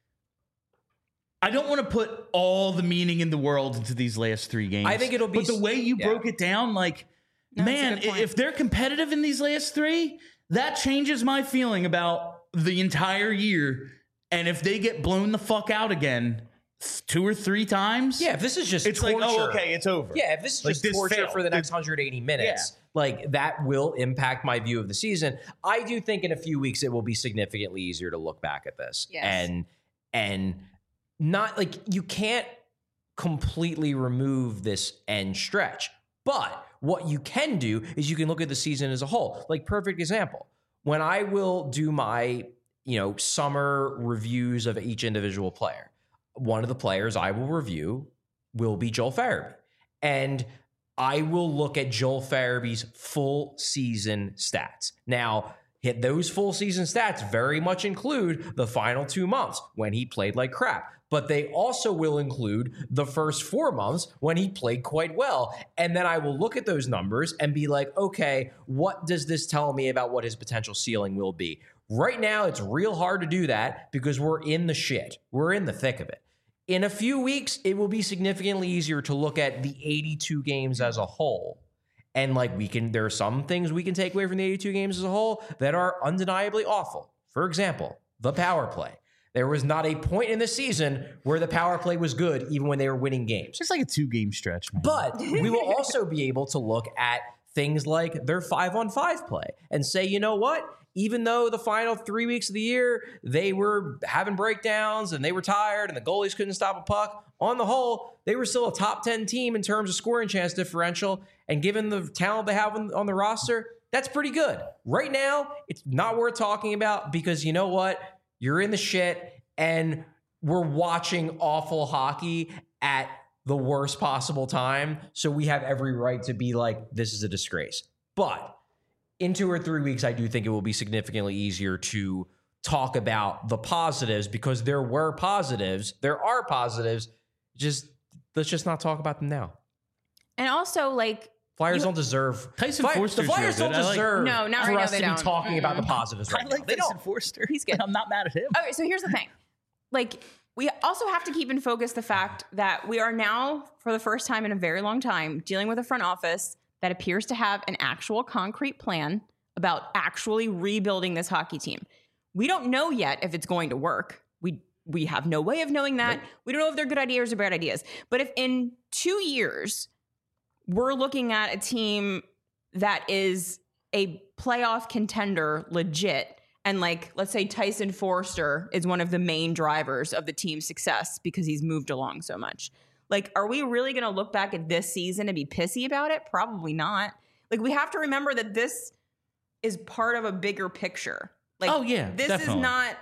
I don't want to put all the meaning in the world into these last three games. I think it'll be, but the way you yeah. broke it down, like, no, man, if they're competitive in these last three, that changes my feeling about the entire year. And if they get blown the fuck out again two or three times, yeah, if this is just it's torture, like, oh, okay, it's over. Yeah, if this is like, just this torture failed. for the next one hundred eighty minutes, yeah. like that will impact my view of the season. I do think in a few weeks it will be significantly easier to look back at this. Yes. And and not like you can't completely remove this end stretch. But what you can do is you can look at the season as a whole. Like, perfect example. When I will do my, you know, summer reviews of each individual player, one of the players I will review will be Joel Farabee. And I will look at Joel Farabee's full season stats. Now, hit those full season stats very much include the final two months when he played like crap. But they also will include the first four months when he played quite well. And then I will look at those numbers and be like, okay, what does this tell me about what his potential ceiling will be? Right now, it's real hard to do that because we're in the shit. We're in the thick of it. In a few weeks, it will be significantly easier to look at the eighty-two games as a whole. And like we can, there are some things we can take away from the eighty-two games as a whole that are undeniably awful. For example, the power play. There was not a point in the season where the power play was good, even when they were winning games. It's like a two-game stretch, man. But we will also be able to look at things like their five-on-five play and say, you know what? Even though the final three weeks of the year, they were having breakdowns and they were tired and the goalies couldn't stop a puck, on the whole, they were still a top ten team in terms of scoring chance differential. And given the talent they have on, on the roster, that's pretty good. Right now, it's not worth talking about because you know what? You're in the shit and we're watching awful hockey at the worst possible time. So we have every right to be like, this is a disgrace. But in two or three weeks, I do think it will be significantly easier to talk about the positives because there were positives. There are positives. Just let's just not talk about them now. And also, like, Flyers you, don't deserve Tyson Fly, Forster's the Flyers real don't good. deserve like, no, not for right us now, to they be don't. talking Mm-mm. about the positives right I like now. They Tyson don't. Forster. He's good. I'm not mad at him. Okay, so here's the thing. Like, we also have to keep in focus the fact that we are now, for the first time in a very long time, dealing with a front office that appears to have an actual concrete plan about actually rebuilding this hockey team. We don't know yet if it's going to work. We we have no way of knowing that. Nope. We don't know if they're good ideas or bad ideas. But if in two years we're looking at a team that is a playoff contender legit, and like, let's say Tyson Forster is one of the main drivers of the team's success because he's moved along so much. Like, are we really going to look back at this season and be pissy about it? Probably not. Like, we have to remember that this is part of a bigger picture. Like, oh yeah, this definitely. is not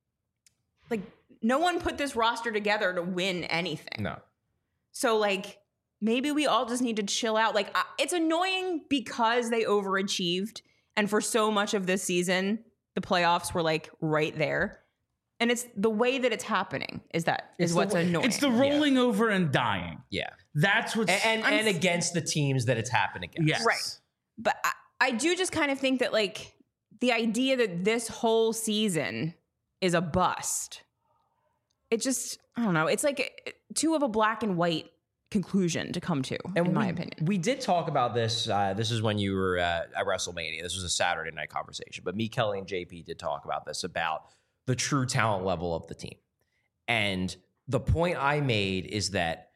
like no one put this roster together to win anything. No. So like maybe we all just need to chill out. Like I, it's annoying because they overachieved, and for so much of this season, the playoffs were like right there. And it's the way that it's happening is that is It's what's the, annoying. It's the rolling yeah. over and dying. Yeah. That's what's and and, and against the teams that it's happened against. Yes. Right. But I, I do just kind of think that like the idea that this whole season is a bust, it just, I don't know. It's like too of a black and white conclusion to come to, and in we, my opinion. We did talk about this. Uh, this is when you were uh, at WrestleMania. This was a Saturday night conversation. But me, Kelly, and J P did talk about this, about the true talent level of the team. And the point I made is that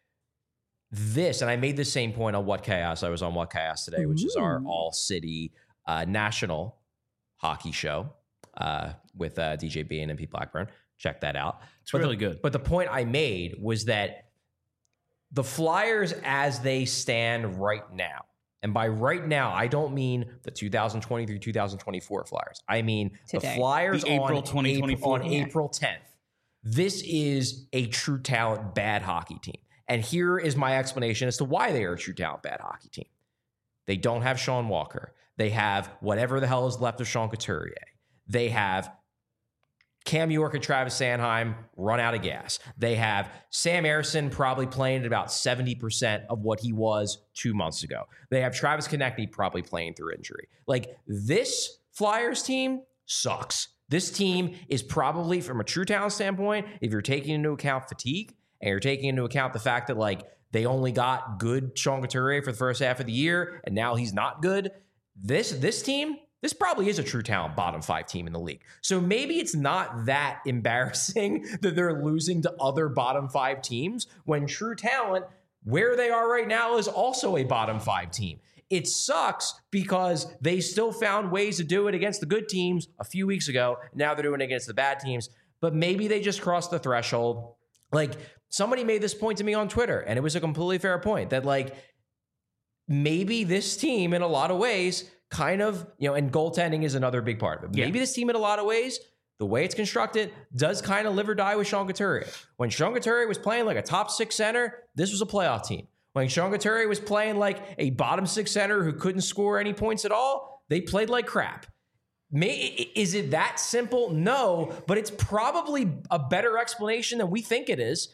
this, and I made the same point on What Chaos. I was on What Chaos today, which Ooh. is our all-city uh, national hockey show uh, with uh, D J B and M P Blackburn. Check that out. It's but really the, good. But the point I made was that the Flyers as they stand right now, and by right now, I don't mean the two thousand twenty-three two thousand twenty-four Flyers. I mean Today. the Flyers the April on, twenty twenty-four. April, on April tenth. This is a true talent bad hockey team. And here is my explanation as to why they are a true talent bad hockey team. They don't have Sean Walker. They have whatever the hell is left of Sean Couturier. They have Cam York and Travis Sanheim run out of gas. They have Sam Ersson probably playing at about seventy percent of what he was two months ago. They have Travis Konechny probably playing through injury. Like, this Flyers team sucks. This team is probably, from a true talent standpoint, if you're taking into account fatigue and you're taking into account the fact that, like, they only got good Sean Couturier for the first half of the year and now he's not good, this this team, this probably is a true talent bottom five team in the league. So maybe it's not that embarrassing that they're losing to other bottom five teams when true talent, where they are right now, is also a bottom five team. It sucks because they still found ways to do it against the good teams a few weeks ago. Now they're doing it against the bad teams, but maybe they just crossed the threshold. Like, somebody made this point to me on Twitter, and it was a completely fair point that, like, maybe this team in a lot of ways kind of, you know, and goaltending is another big part of it. Yeah. Maybe this team in a lot of ways, the way it's constructed, does kind of live or die with Sean Couturier. When Sean Couturier was playing like a top six center, this was a playoff team. When Sean Couturier was playing like a bottom six center who couldn't score any points at all, they played like crap. May, is it that simple? No, but it's probably a better explanation than we think it is.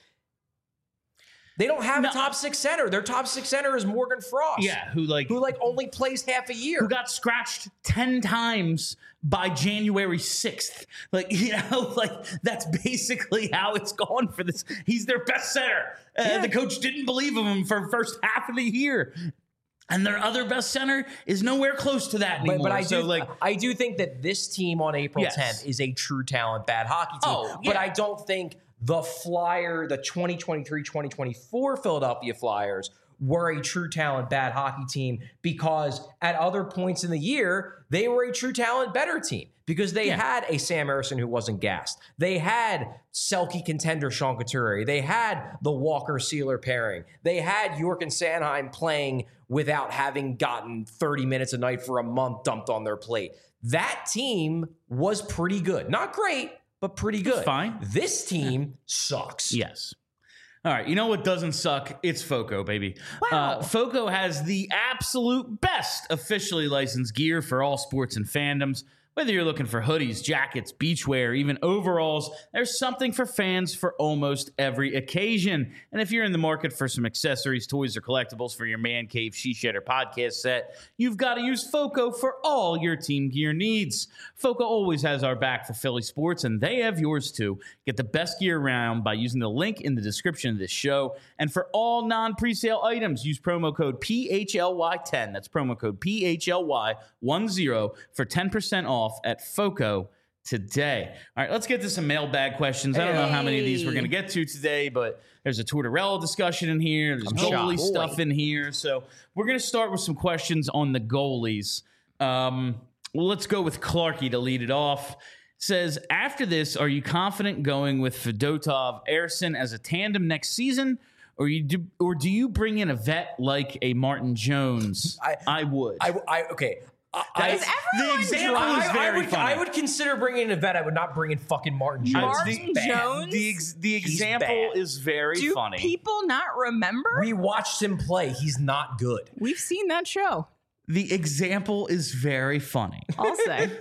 They don't have No. a top six center. Their top six center is Morgan Frost. Yeah, who like Who like only plays half a year. who got scratched ten times by January sixth. Like, you know, like that's basically how it's gone for this. He's their best center. Uh, Yeah. The coach didn't believe in him for the first half of the year. And their other best center is nowhere close to that anymore. But, but I so do like I do think that this team on April Yes. tenth is a true talent bad hockey team. Oh, But yeah. I don't think the Flyer, the twenty twenty-three twenty twenty-four Philadelphia Flyers were a true talent bad hockey team because at other points in the year, they were a true talent better team because they Yeah. had a Sam Ersson who wasn't gassed. They had Selke contender Sean Couturier. They had the Walker-Sealer pairing. They had York and Sanheim playing without having gotten thirty minutes a night for a month dumped on their plate. That team was pretty good. Not great, but pretty good. fine. This team sucks. Yes. All right. You know what doesn't suck? It's FOCO, baby. Wow. Uh, FOCO has the absolute best officially licensed gear for all sports and fandoms. Whether you're looking for hoodies, jackets, beachwear, even overalls, there's something for fans for almost every occasion. And if you're in the market for some accessories, toys, or collectibles for your man cave, she shed, or podcast set, you've got to use FOCO for all your team gear needs. FOCO always has our back for Philly sports, and they have yours too. Get the best gear around by using the link in the description of this show. And for all non-presale items, use promo code P H L Y ten. That's promo code P H L Y ten for ten percent off at FOCO today. All right, let's get to some mailbag questions. I don't know how many of these we're going to get to today, but there's a Tortorella discussion in here. There's I'm goalie shocked. stuff in here. So we're going to start with some questions on the goalies. Um, well, let's go with Clarkey to lead it off. Says, after this, are you confident going with Fedotov, Ersson as a tandem next season? Or you do, or do you bring in a vet like a Martin Jones? I- I would. I, I okay. I, Is I, everyone the example drunk? is I, very I would, funny. I would consider bringing in a vet. I would not bring in fucking Martin Jones. Martin He's bad. Jones? the ex, the He's example bad. is very Do funny. people not remember? We watched him play. He's not good. We've seen that show. the example is very funny. I'll say.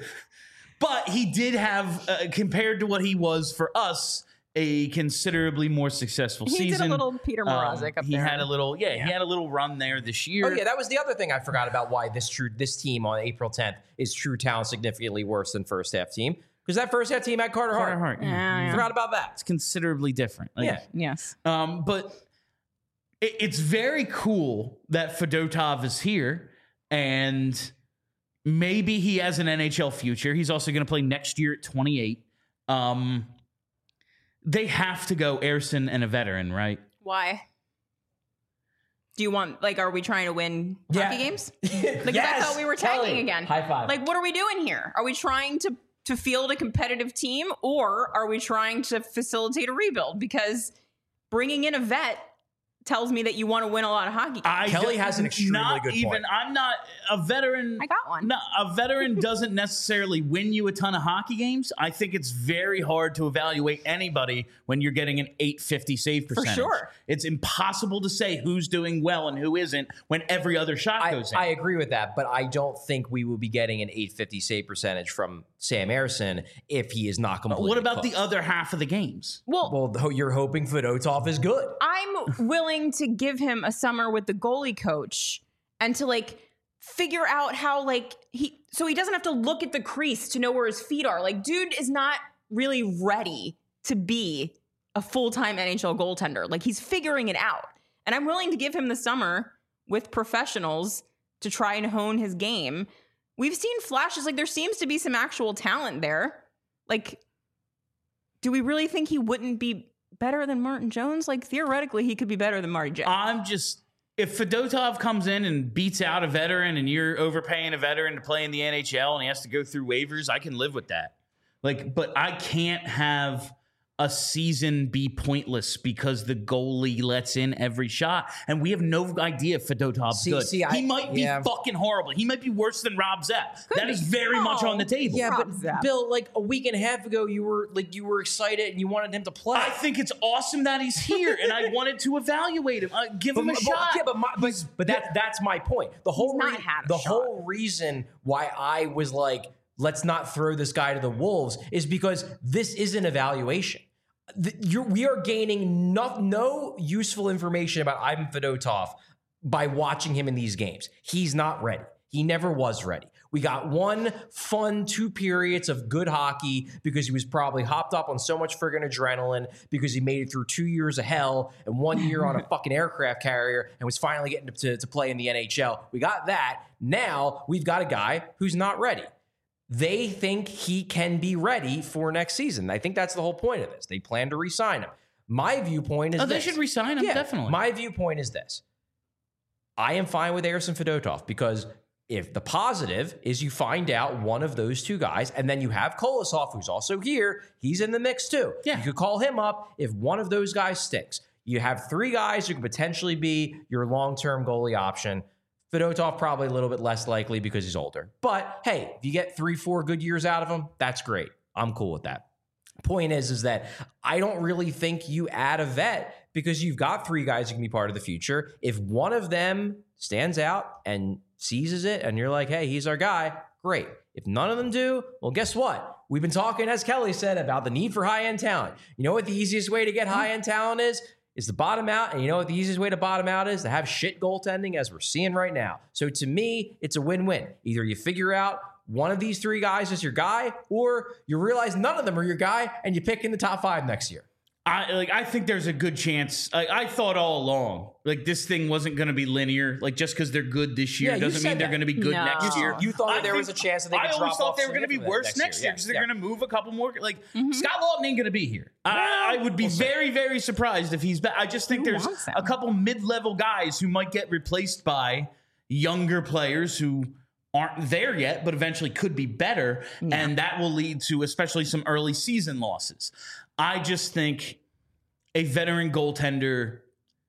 But he did have, uh, compared to what he was for us, a considerably more successful He season. did a little Peter Mrazek Um, up he there. had a little, yeah, he had a little run there this year. Oh yeah, that was the other thing I forgot about why this true this team on April tenth is true talent significantly worse than first half team because that first half team had Carter Hart. Carter Hart, yeah. Yeah, yeah. Forgot about that. It's considerably different. Like, Yeah. Yes. Um, but it, it's very cool that Fedotov is here, and maybe he has an N H L future. He's also going to play next year at twenty-eight. Um, they have to go Ersson and a veteran, right? Why? Do you want, like, are we trying to win Yeah. hockey games? Like, Yes, I thought we were Kelly. tagging again. High five. Like, what are we doing here? Are we trying to to field a competitive team, or are we trying to facilitate a rebuild? Because bringing in a vet tells me that you want to win a lot of hockey games. I Kelly don't- has an extremely not good even, point. I'm not a veteran. I got one. No, a veteran doesn't necessarily win you a ton of hockey games. I think it's very hard to evaluate anybody when you're getting an eight fifty save percentage. sure. It's impossible to say who's doing well and who isn't when every other shot I, goes in. I agree with that, but I don't think we will be getting an eight fifty save percentage from Sam Ersson if he is not completely what about cooked. the other half of the games? Well, Well, though you're hoping Fedotov is good. I'm willing to give him a summer with the goalie coach and to like figure out how like he so he doesn't have to look at the crease to know where his feet are. Like, dude is not really ready to be a full-time N H L goaltender. Like, he's figuring it out. And I'm willing to give him the summer with professionals to try and hone his game. We've seen flashes, like there seems to be some actual talent there. Like, do we really think he wouldn't be better than Martin Jones? Like, theoretically, he could be better than Marty Jones. I'm just, if Fedotov comes in and beats out a veteran and you're overpaying a veteran to play in the N H L and he has to go through waivers, I can live with that. Like, but I can't have a season be pointless because the goalie lets in every shot. And we have no idea if Fedotov's See- good. see, I- he might be yeah. fucking horrible. He might be worse than Rob Zepp. That be. is very much Oh. on the table. Yeah, Rob but Zapp. Bill, like a week and a half ago, you were like you were excited and you wanted him to play. I think it's awesome that he's here, and I wanted to evaluate him. Uh, give But, him a but- shot. yeah, but, my, but, but that, that's my point. The whole not rea- had a the shot. whole reason why I was like, let's not throw this guy to the wolves is because this is an evaluation. The, you're, we are gaining no, no useful information about Ivan Fedotov by watching him in these games. He's not ready. He never was ready. We got one fun two periods of good hockey because he was probably hopped up on so much friggin' adrenaline because he made it through two years of hell and one year on a fucking aircraft carrier and was finally getting to, to play in the N H L. We got that. Now we've got a guy who's not ready. They think he can be ready for next season. I think that's the whole point of this. They plan to re-sign him. My viewpoint is Oh, they this. should re-sign him, Yeah, definitely. My viewpoint is this. I am fine with Ersson Fedotov because if the positive is you find out one of those two guys, and then you have Kolosov, who's also here, he's in the mix too. Yeah. You could call him up if one of those guys sticks. You have three guys who could potentially be your long-term goalie option. Fedotov probably a little bit less likely because he's older. But hey, if you get three, four good years out of him, that's great. I'm cool with that. Point is, is that I don't really think you add a vet because you've got three guys who can be part of the future. If one of them stands out and seizes it and you're like, hey, he's our guy, great. If none of them do, well, guess what? We've been talking, as Kelly said, about the need for high-end talent. You know what the easiest way to get high-end talent is? Is to bottom out. And you know what the easiest way to bottom out is? To have shit goaltending as we're seeing right now. So to me, it's a win-win. Either you figure out one of these three guys is your guy, or you realize none of them are your guy and you pick in the top five next year. I like. I think there's a good chance. I, I thought all along, like this thing wasn't going to be linear. Like just because they're good this year Yeah, you doesn't mean said they're that. going to be good No. next You- year. you thought I there was think- a chance that they could I always drop thought off they were going to be significantly worse next next year. year because Yeah, they're yeah. going to move a couple more. Like Scott Lawton ain't going to be here. I, I would be very, very surprised if he's back. I just think Who there's wants him? a couple mid-level guys who might get replaced by younger players who aren't there yet, but eventually could be better. And that will lead to especially some early season losses. I just think a veteran goaltender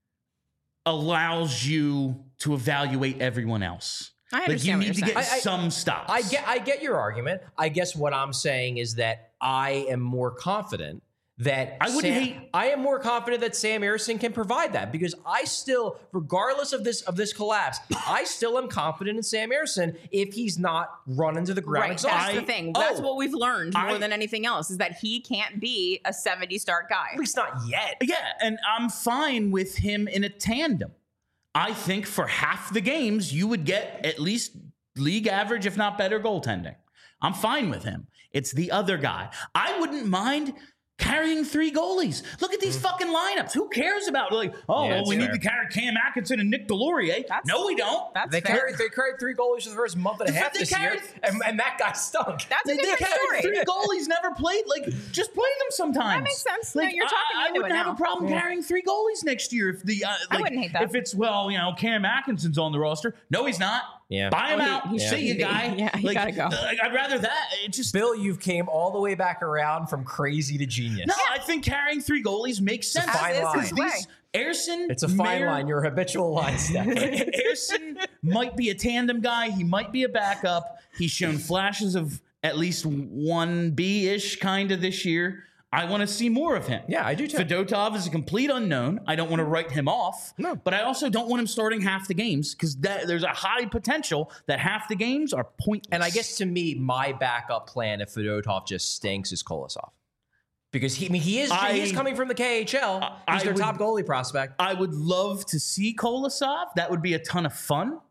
allows you to evaluate everyone else. I Like you understand what need to you're get saying. I- I- some stops. I get I get your argument. I guess what I'm saying is that I am more confident that I wouldn't Sam, hate- I am more confident that Sam Ersson can provide that because I still, regardless of this of this collapse, I still am confident in Sam Ersson if he's not run into the ground Right, exhausted. that's the I- thing. That's oh, what we've learned more I- than anything else is that he can't be a seventy start guy. At least not yet. Yeah, and I'm fine with him in a tandem. I think for half the games, you would get at least league average, if not better, goaltending. I'm fine with him. It's the other guy. I wouldn't mind carrying three goalies. Look at these fucking lineups. Who cares about like, oh, Yeah, well, that's we fair. need to carry Cam Atkinson and Nick Delorier. That's- No, we don't. That's They fair. carried they carried three goalies for the first month and a They- half they this year, carried- and, and that guy stunk. That's They, a they different carried story. three goalies, never played. Like, just play them sometimes. That makes sense. No, you're talking I, I into it wouldn't have now. a problem carrying three goalies next year if the. Uh, like, wouldn't hate that. If it's well, you know, Cam Atkinson's on the roster. No, he's not. Yeah. Buy him Oh, he- out. he See should you, be. guy. Yeah, he like, gotta go. uh, I'd rather that. It just. Bill, you've came all the way back around from crazy to genius. No, I think carrying three goalies makes sense. fine As is line. his way. These, Airson, It's a fine may or- line. You're a habitual line stepper. Airson might be a tandem guy. He might be a backup. He's shown flashes of at least one B-ish kind of this year. I want to see more of him. Yeah, I do too. Fedotov is a complete unknown. I don't want to write him off. No. But I also don't want him starting half the games because there's a high potential that half the games are pointless. And I guess to me, my backup plan if Fedotov just stinks is Kolosov. Because he, I mean, he is I- he is coming from the K H L. I He's their would- top goalie prospect. I would love to see Kolosov. That would be a ton of fun.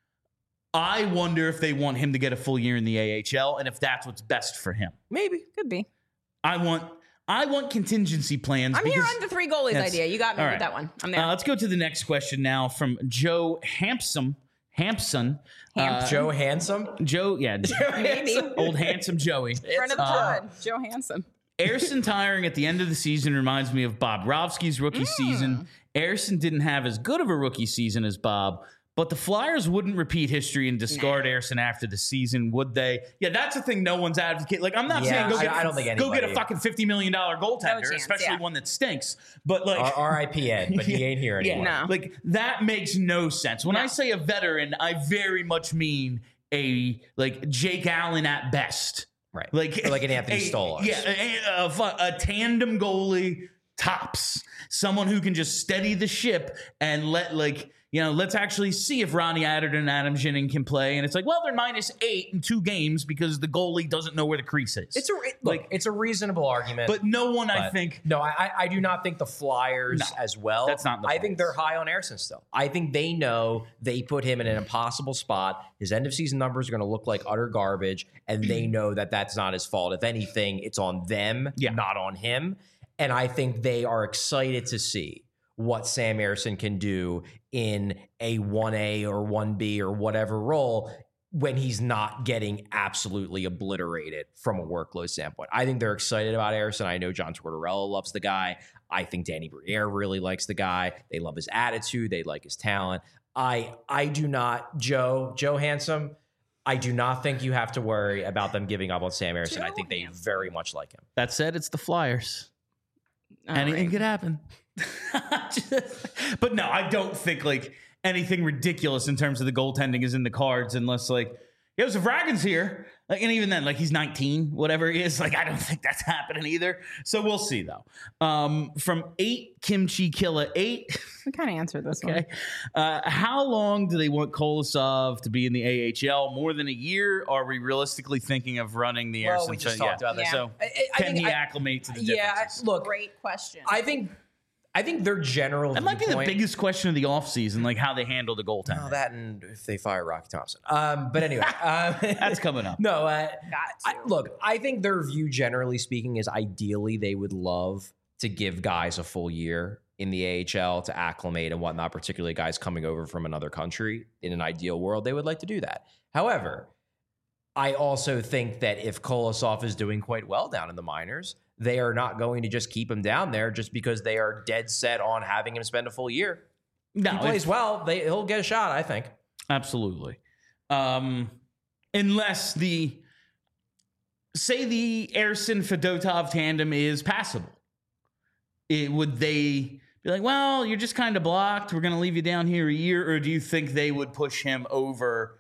I wonder if they want him to get a full year in the A H L and if that's what's best for him. Maybe. Could be. I want I want contingency plans. I'm because, here on the three goalies Yes. idea. You got me All with right. that one. I'm there. Uh, let's go to the next question now from Joe Hampson. Hampson. Hampson. Joe Handsome. Joe, yeah. Maybe. Old handsome Joey. Friend of the Uh, pod, Joe Hansen. Airson tiring at the end of the season reminds me of Bob Rovsky's rookie Mm. season. Airson didn't have as good of a rookie season as Bob, but the Flyers wouldn't repeat history and discard Airson after the season, would they? Yeah, that's the thing no one's advocating. Like, I'm not Yeah, saying go I- get, I don't think go get a anybody- fucking fifty million dollars goaltender, No chance, especially yeah. one that stinks. But, like, R I P Ed, but he ain't here anymore. No. like, that makes no sense. When No. I say a veteran, I very much mean a, like, Jake Allen at best. Right. Like, Or like an Anthony a- Stolarz. Yeah, a, a, fu- a tandem goalie tops. Someone who can just steady the ship and let, like, you know, let's actually see if Ronnie Atherton and Adam Jennings can play. And it's like, well, they're minus eight in two games because the goalie doesn't know where the crease is. It's a it- look, Like- it's a reasonable argument. but no one, I But think, no, I I- I do not think the Flyers No, as well. that's not the I think Flyers. they're high on Airson still. I think they know they put him in an impossible spot. His end of season numbers are going to look like utter garbage, and they know that that's not his fault. If anything, it's on them, Yeah. not on him. And I think they are excited to see what Sam Airson can do in a one A or one B or whatever role when he's not getting absolutely obliterated from a workload standpoint. I think they're excited about Airson. I know John Tortorella loves the guy. I think Danny Briere really likes the guy. They love his attitude. They like his talent. I I do not, Joe, Joe Handsome, I do not think you have to worry about them giving up on Sam Airson. I think they Handsome. very much like him. that said, it's the Flyers. All Anything right. could happen. But no, I don't think like anything ridiculous in terms of the goaltending is in the cards unless like, yo, Zavragin's here. Like, and even then, like he's nineteen, whatever he is. Like, I don't think that's happening either. So we'll see though. Um, from eight Kimchi Killa eight. We kind of answered this Okay. Uh, how long do they want Kolosov to be in the A H L? More than a year? Are we realistically thinking of running the Well, Airson? we just so, talked yeah. about this. Yeah. So I- I- I can think he I- acclimate to the Yeah, differences? look, Great question. I think I think their general That might be the viewpoint- biggest question of the offseason, like how they handle the goaltender. Oh, that and if they fire Rocky Thompson. Um, but anyway, um, That's coming up. no. Uh, Got I, to. look, I think their view, generally speaking, is ideally they would love to give guys a full year in the A H L to acclimate and whatnot, particularly guys coming over from another country. In an ideal world, they would like to do that. However, I also think that if Kolosov is doing quite well down in the minors, they are not going to just keep him down there just because they are dead set on having him spend a full year. No, He plays it's- well, they, he'll get a shot, I think. absolutely. Um, unless the say the Airson Fedotov tandem is passable, it, would they be like, well, you're just kind of blocked. We're going to leave you down here a year, or do you think they would push him over?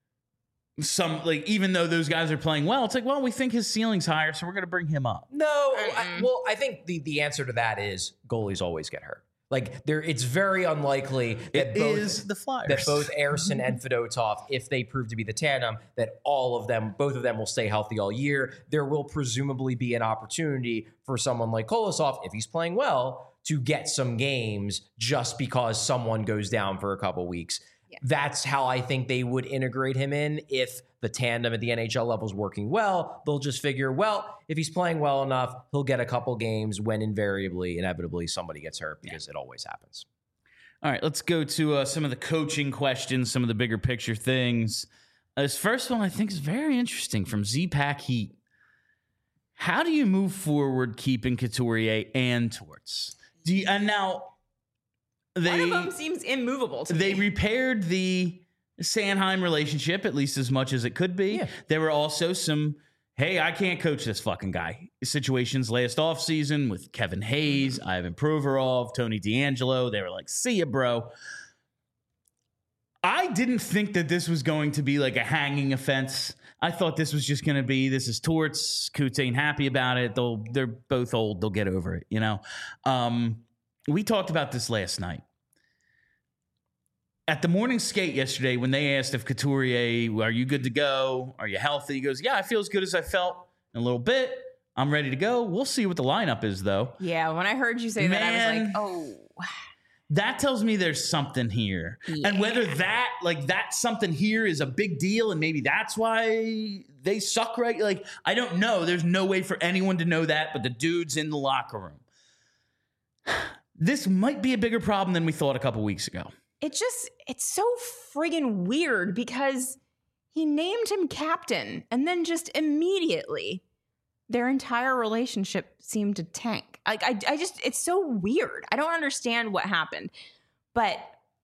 Some like even though those guys are playing well, it's like, well, we think his ceiling's higher, so we're going to bring him up. No, I, Mm-mm. well, I think the, the answer to that is goalies always get hurt. Like there, it's very unlikely that It both is the Flyers. that both Airson and Fedotov, if they prove to be the tandem, that all of them, both of them, will stay healthy all year. There will presumably be an opportunity for someone like Kolosov, if he's playing well, to get some games just because someone goes down for a couple weeks. Yeah. That's how I think they would integrate him in. If the tandem at the N H L level is working well, they'll just figure, well, if he's playing well enough, he'll get a couple games when invariably, inevitably, somebody gets hurt because it always happens. All right, let's go to uh, some of the coaching questions, some of the bigger picture things. Uh, this first one I think is very interesting from Z-Pack Heat. How do you move forward keeping Couturier and Torts? Do you, and now One they of them seems immovable to they me. repaired the Sanheim relationship at least as much as it could be. Yeah. There were also some hey, I can't coach this fucking guy. Situations last offseason with Kevin Hayes, Ivan Provorov, Tony D'Angelo. They were like, see ya, bro. I didn't think that this was going to be like a hanging offense. I thought this was just going to be, this is torts. Coots ain't happy about it. They'll, they're both old. They'll get over it, you know? Um, we talked about this last night. At the morning skate yesterday, when they asked if Couturier, are you good to go? Are you healthy? He goes, yeah, I feel as good as I felt in a little bit. I'm ready to go. We'll see what the lineup is, though. Yeah, when I heard you say Man, that, I was like, oh. That tells me there's something here. Yeah. And whether that, like, that something here is a big deal and maybe that's why they suck, right? Like, I don't know. There's no way for anyone to know that but the dudes in the locker room. This might be a bigger problem than we thought a couple weeks ago. It just, it's so friggin' weird because he named him captain and then just immediately their entire relationship seemed to tank. Like, I, I just, it's so weird. I don't understand what happened, but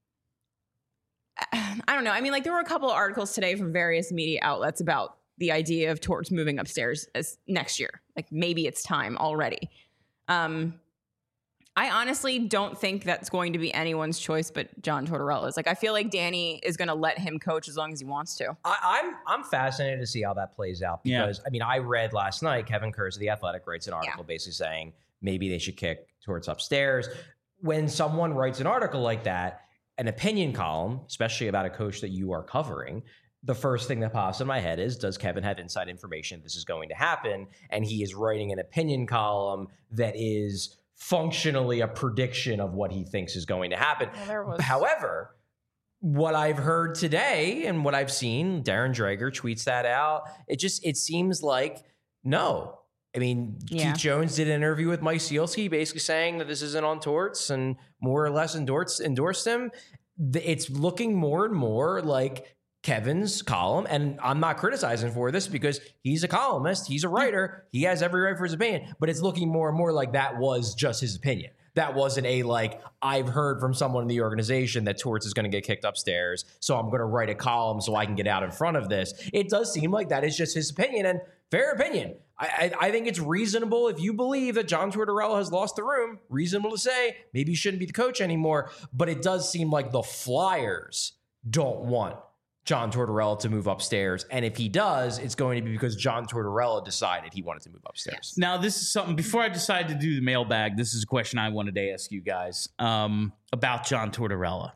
I don't know. I mean, like, there were a couple of articles today from various media outlets about the idea of Torts moving upstairs as next year. Like, maybe it's time already. Um, I honestly don't think that's going to be anyone's choice but John Tortorella's. Like, I feel like Danny is going to let him coach as long as he wants to. I, I'm I'm fascinated to see how that plays out because, yeah. I mean, I read last night, Kevin Kurz of The Athletic writes an article yeah. basically saying maybe they should kick Torts upstairs. When someone writes an article like that, an opinion column, especially about a coach that you are covering, the first thing that pops in my head is, does Kevin have inside information this is going to happen? And he is writing an opinion column that is functionally a prediction of what he thinks is going to happen. Well, there was- However, what I've heard today and what I've seen, Darren Dreger tweets that out. It just, it seems like, no. I mean, yeah. Keith Jones did an interview with Mike Sielski basically saying that this isn't on Torts and more or less endorsed, endorsed him. It's looking more and more like Kevin's column, and I'm not criticizing for this because he's a columnist, he's a writer, he has every right for his opinion, but it's looking more and more like that was just his opinion. That wasn't a, like, I've heard from someone in the organization that Torts is going to get kicked upstairs, so I'm going to write a column so I can get out in front of this. It does seem like that is just his opinion, and fair opinion. I, I, I think it's reasonable if you believe that John Tortorella has lost the room, reasonable to say maybe he shouldn't be the coach anymore, but it does seem like the Flyers don't want John Tortorella to move upstairs. And if he does, it's going to be because John Tortorella decided he wanted to move upstairs. Now, this is something, before I decided to do the mailbag, this is a question I wanted to ask you guys um, about John Tortorella.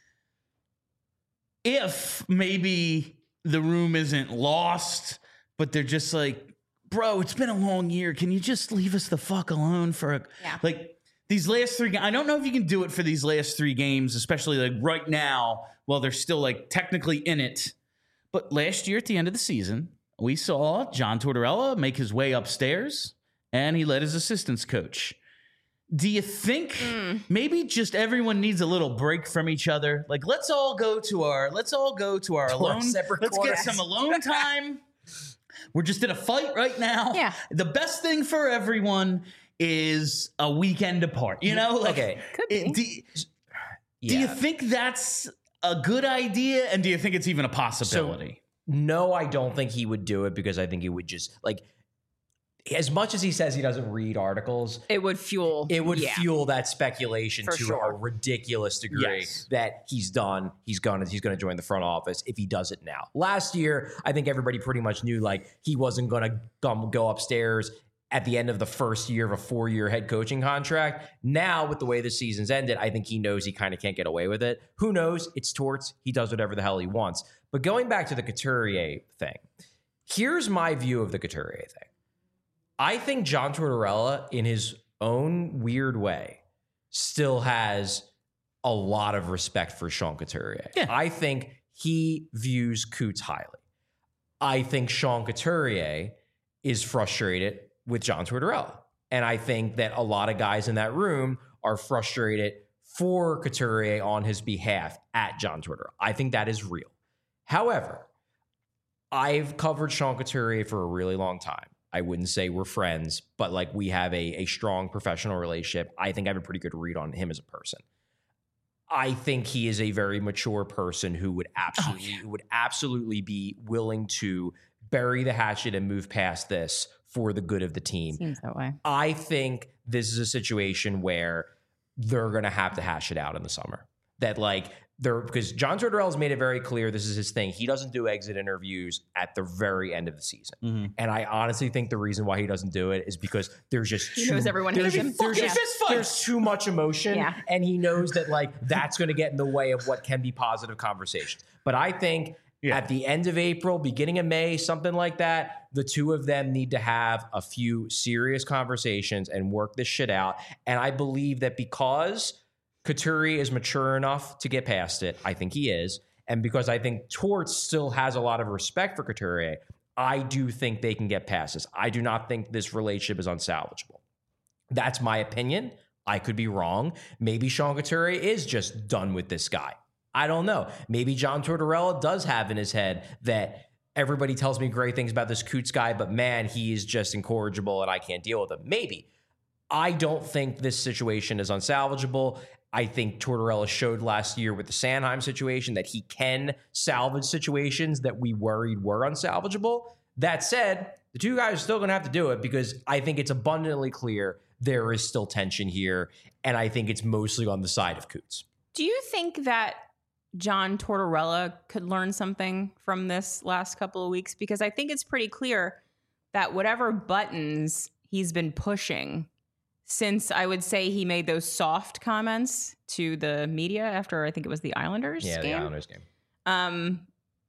If maybe the room isn't lost, but they're just like, bro, it's been a long year. Can you just leave us the fuck alone for a, yeah. like these last three, I don't know if you can do it for these last three games, especially like right now, while they're still like technically in it. But last year at the end of the season, we saw John Tortorella make his way upstairs and he let his assistants coach. Do you think mm. maybe just everyone needs a little break from each other? Like, let's all go to our, let's all go to our to alone, our separate let's corners. get some alone time. We're just in a fight right now. Yeah. The best thing for everyone is a weekend apart. You know, like, okay. Could be. It, do, yeah. do you think that's a good idea? And do you think it's even a possibility? So, no, I don't think he would do it because I think it would just, like, as much as he says he doesn't read articles, it would fuel it would yeah. fuel that speculation For to sure. a ridiculous degree Yes. that he's done. He's gonna he's gonna join the front office if he does it now. Last year, I think everybody pretty much knew like he wasn't gonna come, go upstairs at the end of the first year of a four-year head coaching contract. Now, with the way the season's ended, I think he knows he kind of can't get away with it. Who knows? It's Torts. He does whatever the hell he wants. But going back to the Couturier thing, here's my view of the Couturier thing. I think John Tortorella, in his own weird way, still has a lot of respect for Sean Couturier. Yeah. I think he views Coots highly. I think Sean Couturier is frustrated with John Tortorella. And I think that a lot of guys in that room are frustrated for Couturier on his behalf at John Tortorella. I think that is real. However, I've covered Sean Couturier for a really long time. I wouldn't say we're friends, but like we have a, a strong professional relationship. I think I have a pretty good read on him as a person. I think he is a very mature person who would absolutely, oh, yeah. would absolutely be willing to bury the hatchet and move past this for the good of the team. Seems that way. I think this is a situation where they're going to have to hash it out in the summer. That like they're because John Tortorella has made it very clear this is his thing. He doesn't do exit interviews at the very end of the season. Mm-hmm. And I honestly think the reason why he doesn't do it is because there's just He too, knows everyone there's, hates him. there's, Yeah. just- fist fights. there's too much emotion. Yeah. And he knows that like that's going to get in the way of what can be positive conversations. But I think Yeah. at the end of April, beginning of May, something like that, the two of them need to have a few serious conversations and work this shit out. And I believe that because Couturier is mature enough to get past it, I think he is, and because I think Torts still has a lot of respect for Couturier, I do think they can get past this. I do not think this relationship is unsalvageable. That's my opinion. I could be wrong. Maybe Sean Couturier is just done with this guy. I don't know. Maybe John Tortorella does have in his head that everybody tells me great things about this Coots guy, but man, he is just incorrigible and I can't deal with him. Maybe. I don't think this situation is unsalvageable. I think Tortorella showed last year with the Sanheim situation that he can salvage situations that we worried were unsalvageable. That said, the two guys are still going to have to do it because I think it's abundantly clear there is still tension here, and I think it's mostly on the side of Coots. Do you think that John Tortorella could learn something from this last couple of weeks? Because I think it's pretty clear that whatever buttons he's been pushing since I would say he made those soft comments to the media after I think it was the Islanders Yeah, game. the Islanders game. Um,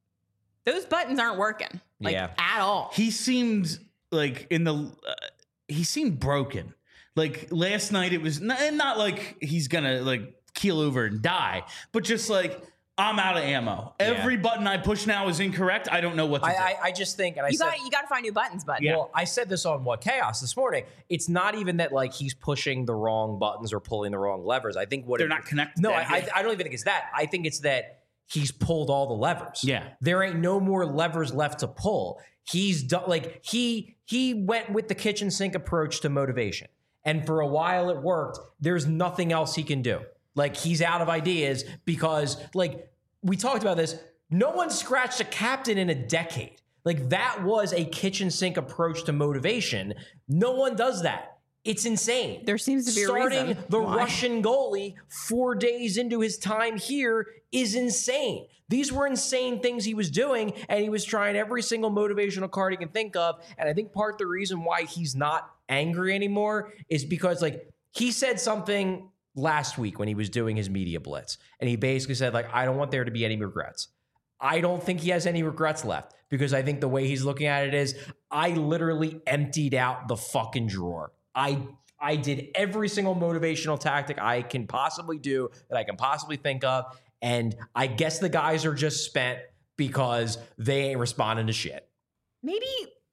those buttons aren't working, like Yeah. at all. He seemed like in the uh, he seemed broken. Like last night, it was not, not like he's gonna like keel over and die, but just like I'm out of ammo. Yeah. Every button I push now is incorrect. I don't know what to I, do. I, I just think, and I You said, got you got to find new buttons, button. Yeah. well, I said this on What Chaos this morning. It's not even that like he's pushing the wrong buttons or pulling the wrong levers. I think what They're it- not connected. No, to I, I, anything. I don't even think it's that. I think it's that he's pulled all the levers. Yeah. There ain't no more levers left to pull. He's done like he he went with the kitchen sink approach to motivation. And for a while it worked. There's nothing else he can do. Like he's out of ideas because like we talked about this. No one scratched a captain in a decade. Like that was a kitchen sink approach to motivation. No one does that. It's insane. There seems to be a Starting reason the why. Russian goalie four days into his time here is insane. These were insane things he was doing, and he was trying every single motivational card he can think of. And I think part of the reason why he's not angry anymore is because, like, he said something last week when he was doing his media blitz, and he basically said, like, I don't want there to be any regrets. I don't think he has any regrets left because I think the way he's looking at it is, I literally emptied out the fucking drawer. I I did every single motivational tactic I can possibly do that I can possibly think of. And I guess the guys are just spent because they ain't responding to shit. Maybe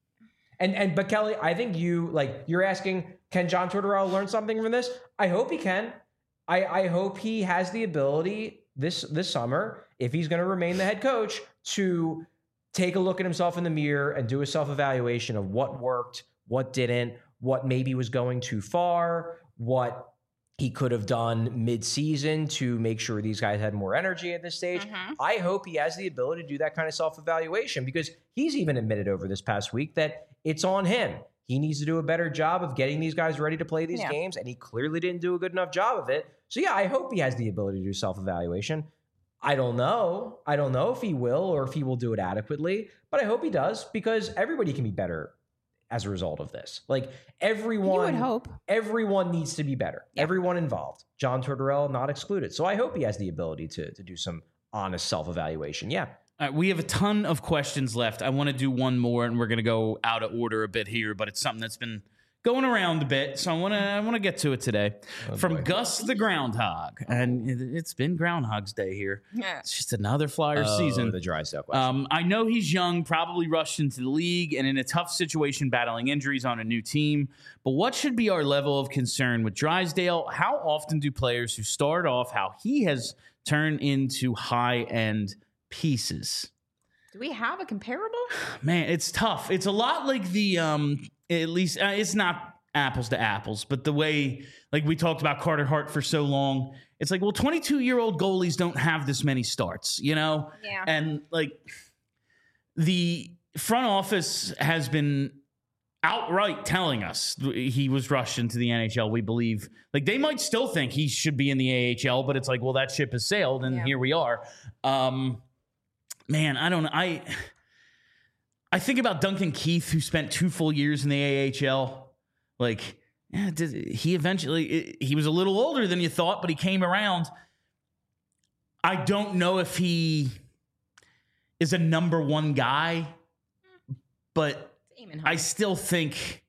And and but Kelly, I think you like you're asking, can John Tortorella learn something from this? I hope he can. I, I hope he has the ability this this summer, if he's going to remain the head coach, to take a look at himself in the mirror and do a self-evaluation of what worked, what didn't, what maybe was going too far, what he could have done mid-season to make sure these guys had more energy at this stage. Mhm. I hope he has the ability to do that kind of self-evaluation because he's even admitted over this past week that it's on him. He needs to do a better job of getting these guys ready to play these Yeah. games, and he clearly didn't do a good enough job of it. So yeah, I hope he has the ability to do self-evaluation. I don't know. I don't know if he will or if he will do it adequately, but I hope he does because everybody can be better as a result of this. Like everyone, you would hope. everyone needs to be better. Yeah. Everyone involved. John Tortorella not excluded. So I hope he has the ability to, to do some honest self-evaluation. Yeah. All right, we have a ton of questions left. I want to do one more, and we're going to go out of order a bit here, but it's something that's been going around a bit, so I want to I want to get to it today. From boy. Gus the Groundhog, and it- it's been Groundhog's Day here. Yeah. It's just another Flyer Oh, season. the dry stuff question. Um, I know he's young, probably rushed into the league, and in a tough situation battling injuries on a new team. But what should be our level of concern with Drysdale? How often do players who start off how he has turned into high-end pieces? Do we have a comparable? Man, it's tough. It's a lot like the um at least uh, it's not apples to apples, but the way like we talked about Carter Hart for so long, it's like, well, twenty-two-year-old goalies don't have this many starts, you know? Yeah. And like the front office has been outright telling us he was rushed into the N H L. We believe, like, they might still think he should be in the A H L, but it's like, well, that ship has sailed, and Yeah. here we are. Um, man, I don't know. I I think about Duncan Keith, who spent two full years in the A H L. Like, yeah, did, he eventually he was a little older than you thought, but he came around. I don't know if he is a number one guy, but I still think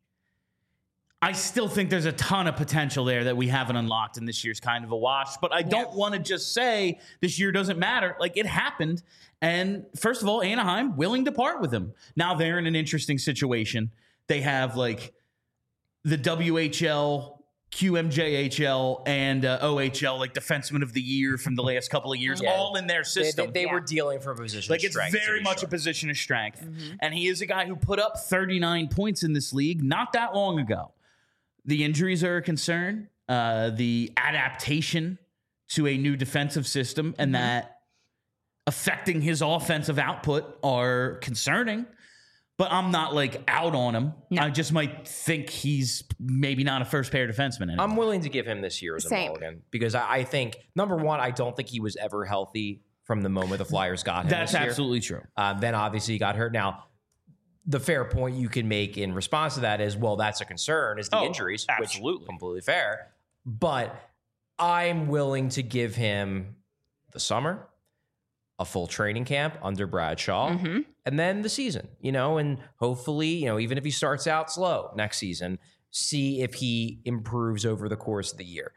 I still think there's a ton of potential there that we haven't unlocked, and this year's kind of a wash. But I don't Yeah. want to just say this year doesn't matter. Like, it happened. And first of all, Anaheim willing to part with him. Now they're in an interesting situation. They have like the W H L, Q M J H L, and uh, O H L, like defenseman of the year from the last couple of years, Yeah. all in their They, system. they, they Yeah. were dealing for a position Like, of it's strength. to very be much sure. a position of strength. And he is a guy who put up thirty-nine points in this league not that long ago. The injuries are a concern. Uh, the adaptation to a new defensive system and that affecting his offensive output are concerning. But I'm not, like, out on him. No. I just might think he's maybe not a first pair defenseman anymore. I'm willing to give him this year as a Same. mulligan because I, I think, number one, I don't think he was ever healthy from the moment the Flyers got him. That's this year. absolutely true. Um, then obviously he got hurt. Now, the fair point you can make in response to that is, well, that's a concern, is the Oh, injuries, absolutely. which completely fair. But I'm willing to give him the summer, a full training camp under Bradshaw, Mhm. and then the season, you know, and hopefully, you know, even if he starts out slow next season, see if he improves over the course of the year.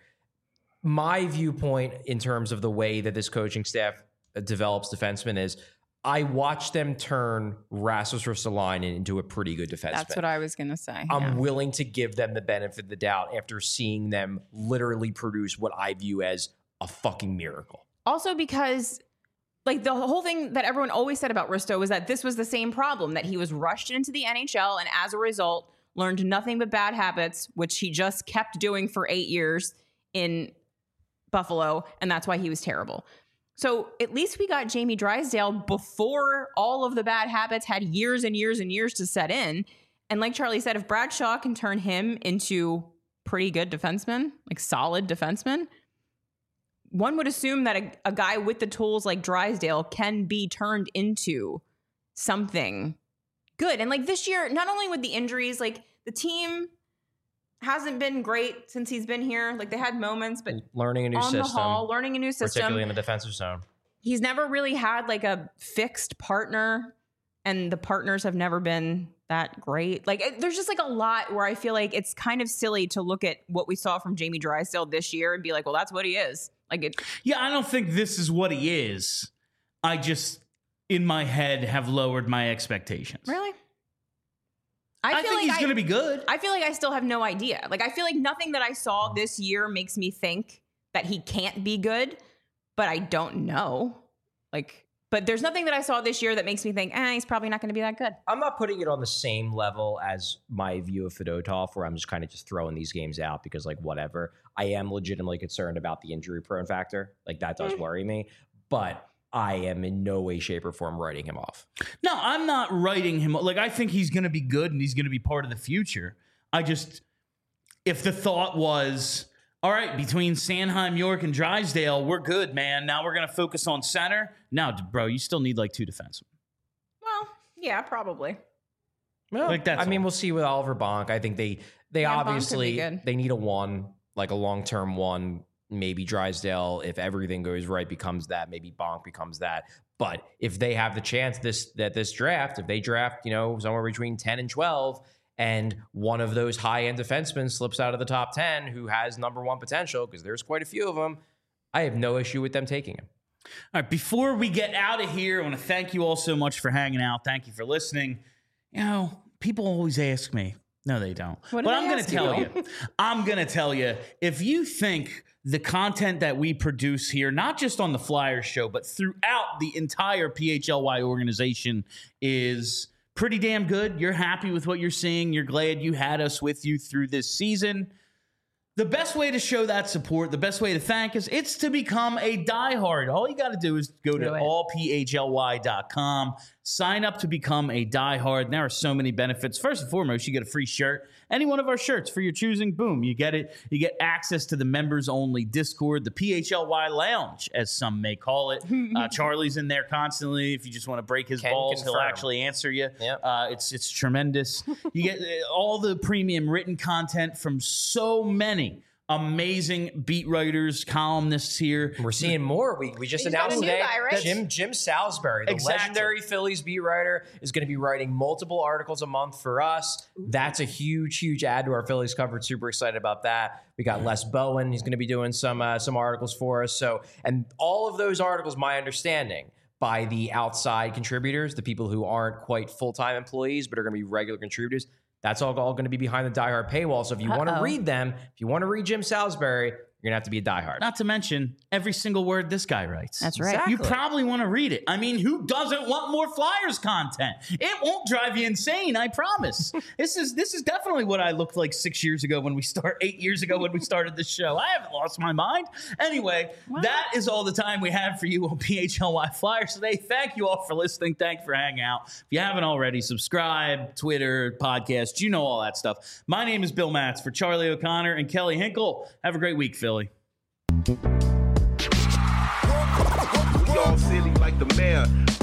My viewpoint in terms of the way that this coaching staff develops defensemen is I watched them turn Rasmus Ristolainen into a pretty good defenseman. That's what I was going to say. I'm yeah. willing to give them the benefit of the doubt after seeing them literally produce what I view as a fucking miracle. Also because, like, the whole thing that everyone always said about Risto was that this was the same problem, that he was rushed into the N H L and as a result learned nothing but bad habits, which he just kept doing for eight years in Buffalo, and that's why he was terrible. So at least we got Jamie Drysdale before all of the bad habits had years and years and years to set in. And like Charlie said, if Bradshaw can turn him into pretty good defenseman, like solid defenseman, one would assume that a, a guy with the tools like Drysdale can be turned into something good. And like this year, not only with the injuries, like the team hasn't been great since he's been here. Like they had moments, but Learning a new on system, the hall, learning a new system. particularly in the defensive zone. He's never really had like a fixed partner, and the partners have never been that great. Like it, there's just like a lot where I feel like it's kind of silly to look at what we saw from Jamie Drysdale this year and be like, well, that's what he is. Like it. Yeah, I don't think this is what he is. I just, in my head, have lowered my expectations. Really? I, feel think like he's I- going to be good. I feel like I still have no idea. Like I feel like nothing that I saw this year makes me think that he can't be good, but I don't know. Like, but there's nothing that I saw this year that makes me think, eh, he's probably not going to be that good. I'm not putting it on the same level as my view of Fedotov, where I'm just kind of just throwing these games out because, like, whatever. I am legitimately concerned about the injury prone factor. Like, that does Mm. worry me. But I am in no way, shape, or form writing him off. No, I'm not writing him. Like, I think he's going to be good and he's going to be part of the future. I just, if the thought was, all right, between Sanheim, York, and Drysdale, we're good, man. Now we're going to focus on center. No, bro, you still need like two defensemen. Well, yeah, probably. Well, Like, that's I mean, all. we'll see with Oliver Bonk. I think they they Yeah, Bonk could be obviously good. they need a one, like a long term one. Maybe Drysdale, if everything goes right, becomes that. Maybe Bonk becomes that. But if they have the chance this that this draft, if they draft, you know, somewhere between ten and twelve, and one of those high end defensemen slips out of the top ten who has number one potential, because there's quite a few of them, I have no issue with them taking him. All right, before we get out of here, I want to thank you all so much for hanging out. Thank you for listening. You know, people always ask me. No, they don't. What do but they I'm going ask to tell you? you. I'm going to tell you, if you think the content that we produce here, not just on the Flyers show, but throughout the entire P H L Y organization is pretty damn good, you're happy with what you're seeing, you're glad you had us with you through this season, the best way to show that support, the best way to thank us, it's to become a diehard. All you got to do is go to Do it. all p h l y dot com Sign up to become a diehard. There are so many benefits. First and foremost, you get a free shirt. Any one of our shirts for your choosing, boom, you get it. You get access to the members-only Discord, the P H L Y Lounge, as some may call it. Uh, Charlie's in there constantly. If you just want to break his Can balls, confirm. he'll actually answer you. Yep. Uh, it's it's tremendous. You get uh, all the premium written content from so many amazing beat writers, columnists here. We're seeing more. We, we just He's got announced a new today guy, right? that Jim Jim Salisbury, the Exactly. legendary Phillies beat writer, is going to be writing multiple articles a month for us. That's a huge, huge add to our Phillies coverage. Super excited about that. We got Les Bowen. He's going to be doing some uh, some articles for us. So, and all of those articles, my understanding, by the outside contributors, the people who aren't quite full-time employees but are going to be regular contributors. That's all, all going to be behind the diehard paywall. So if you want to Uh-oh. read them, if you want to read Jim Salisbury, you're going to have to be a diehard. Not to mention every single word this guy writes. That's right. Exactly. You probably want to read it. I mean, who doesn't want more Flyers content? It won't drive you insane, I promise. this is this is definitely what I looked like six years ago when we start, eight years ago when we started this show. I haven't lost my mind. Anyway, that is all the time we have for you on P H L Y Flyers today. Thank you all for listening. Thank you for hanging out. If you haven't already, subscribe, Twitter, podcast, you know all that stuff. My name is Bill Matz for Charlie O'Connor and Kelly Hinkle. Have a great week, Philly. We all silly like the mayor.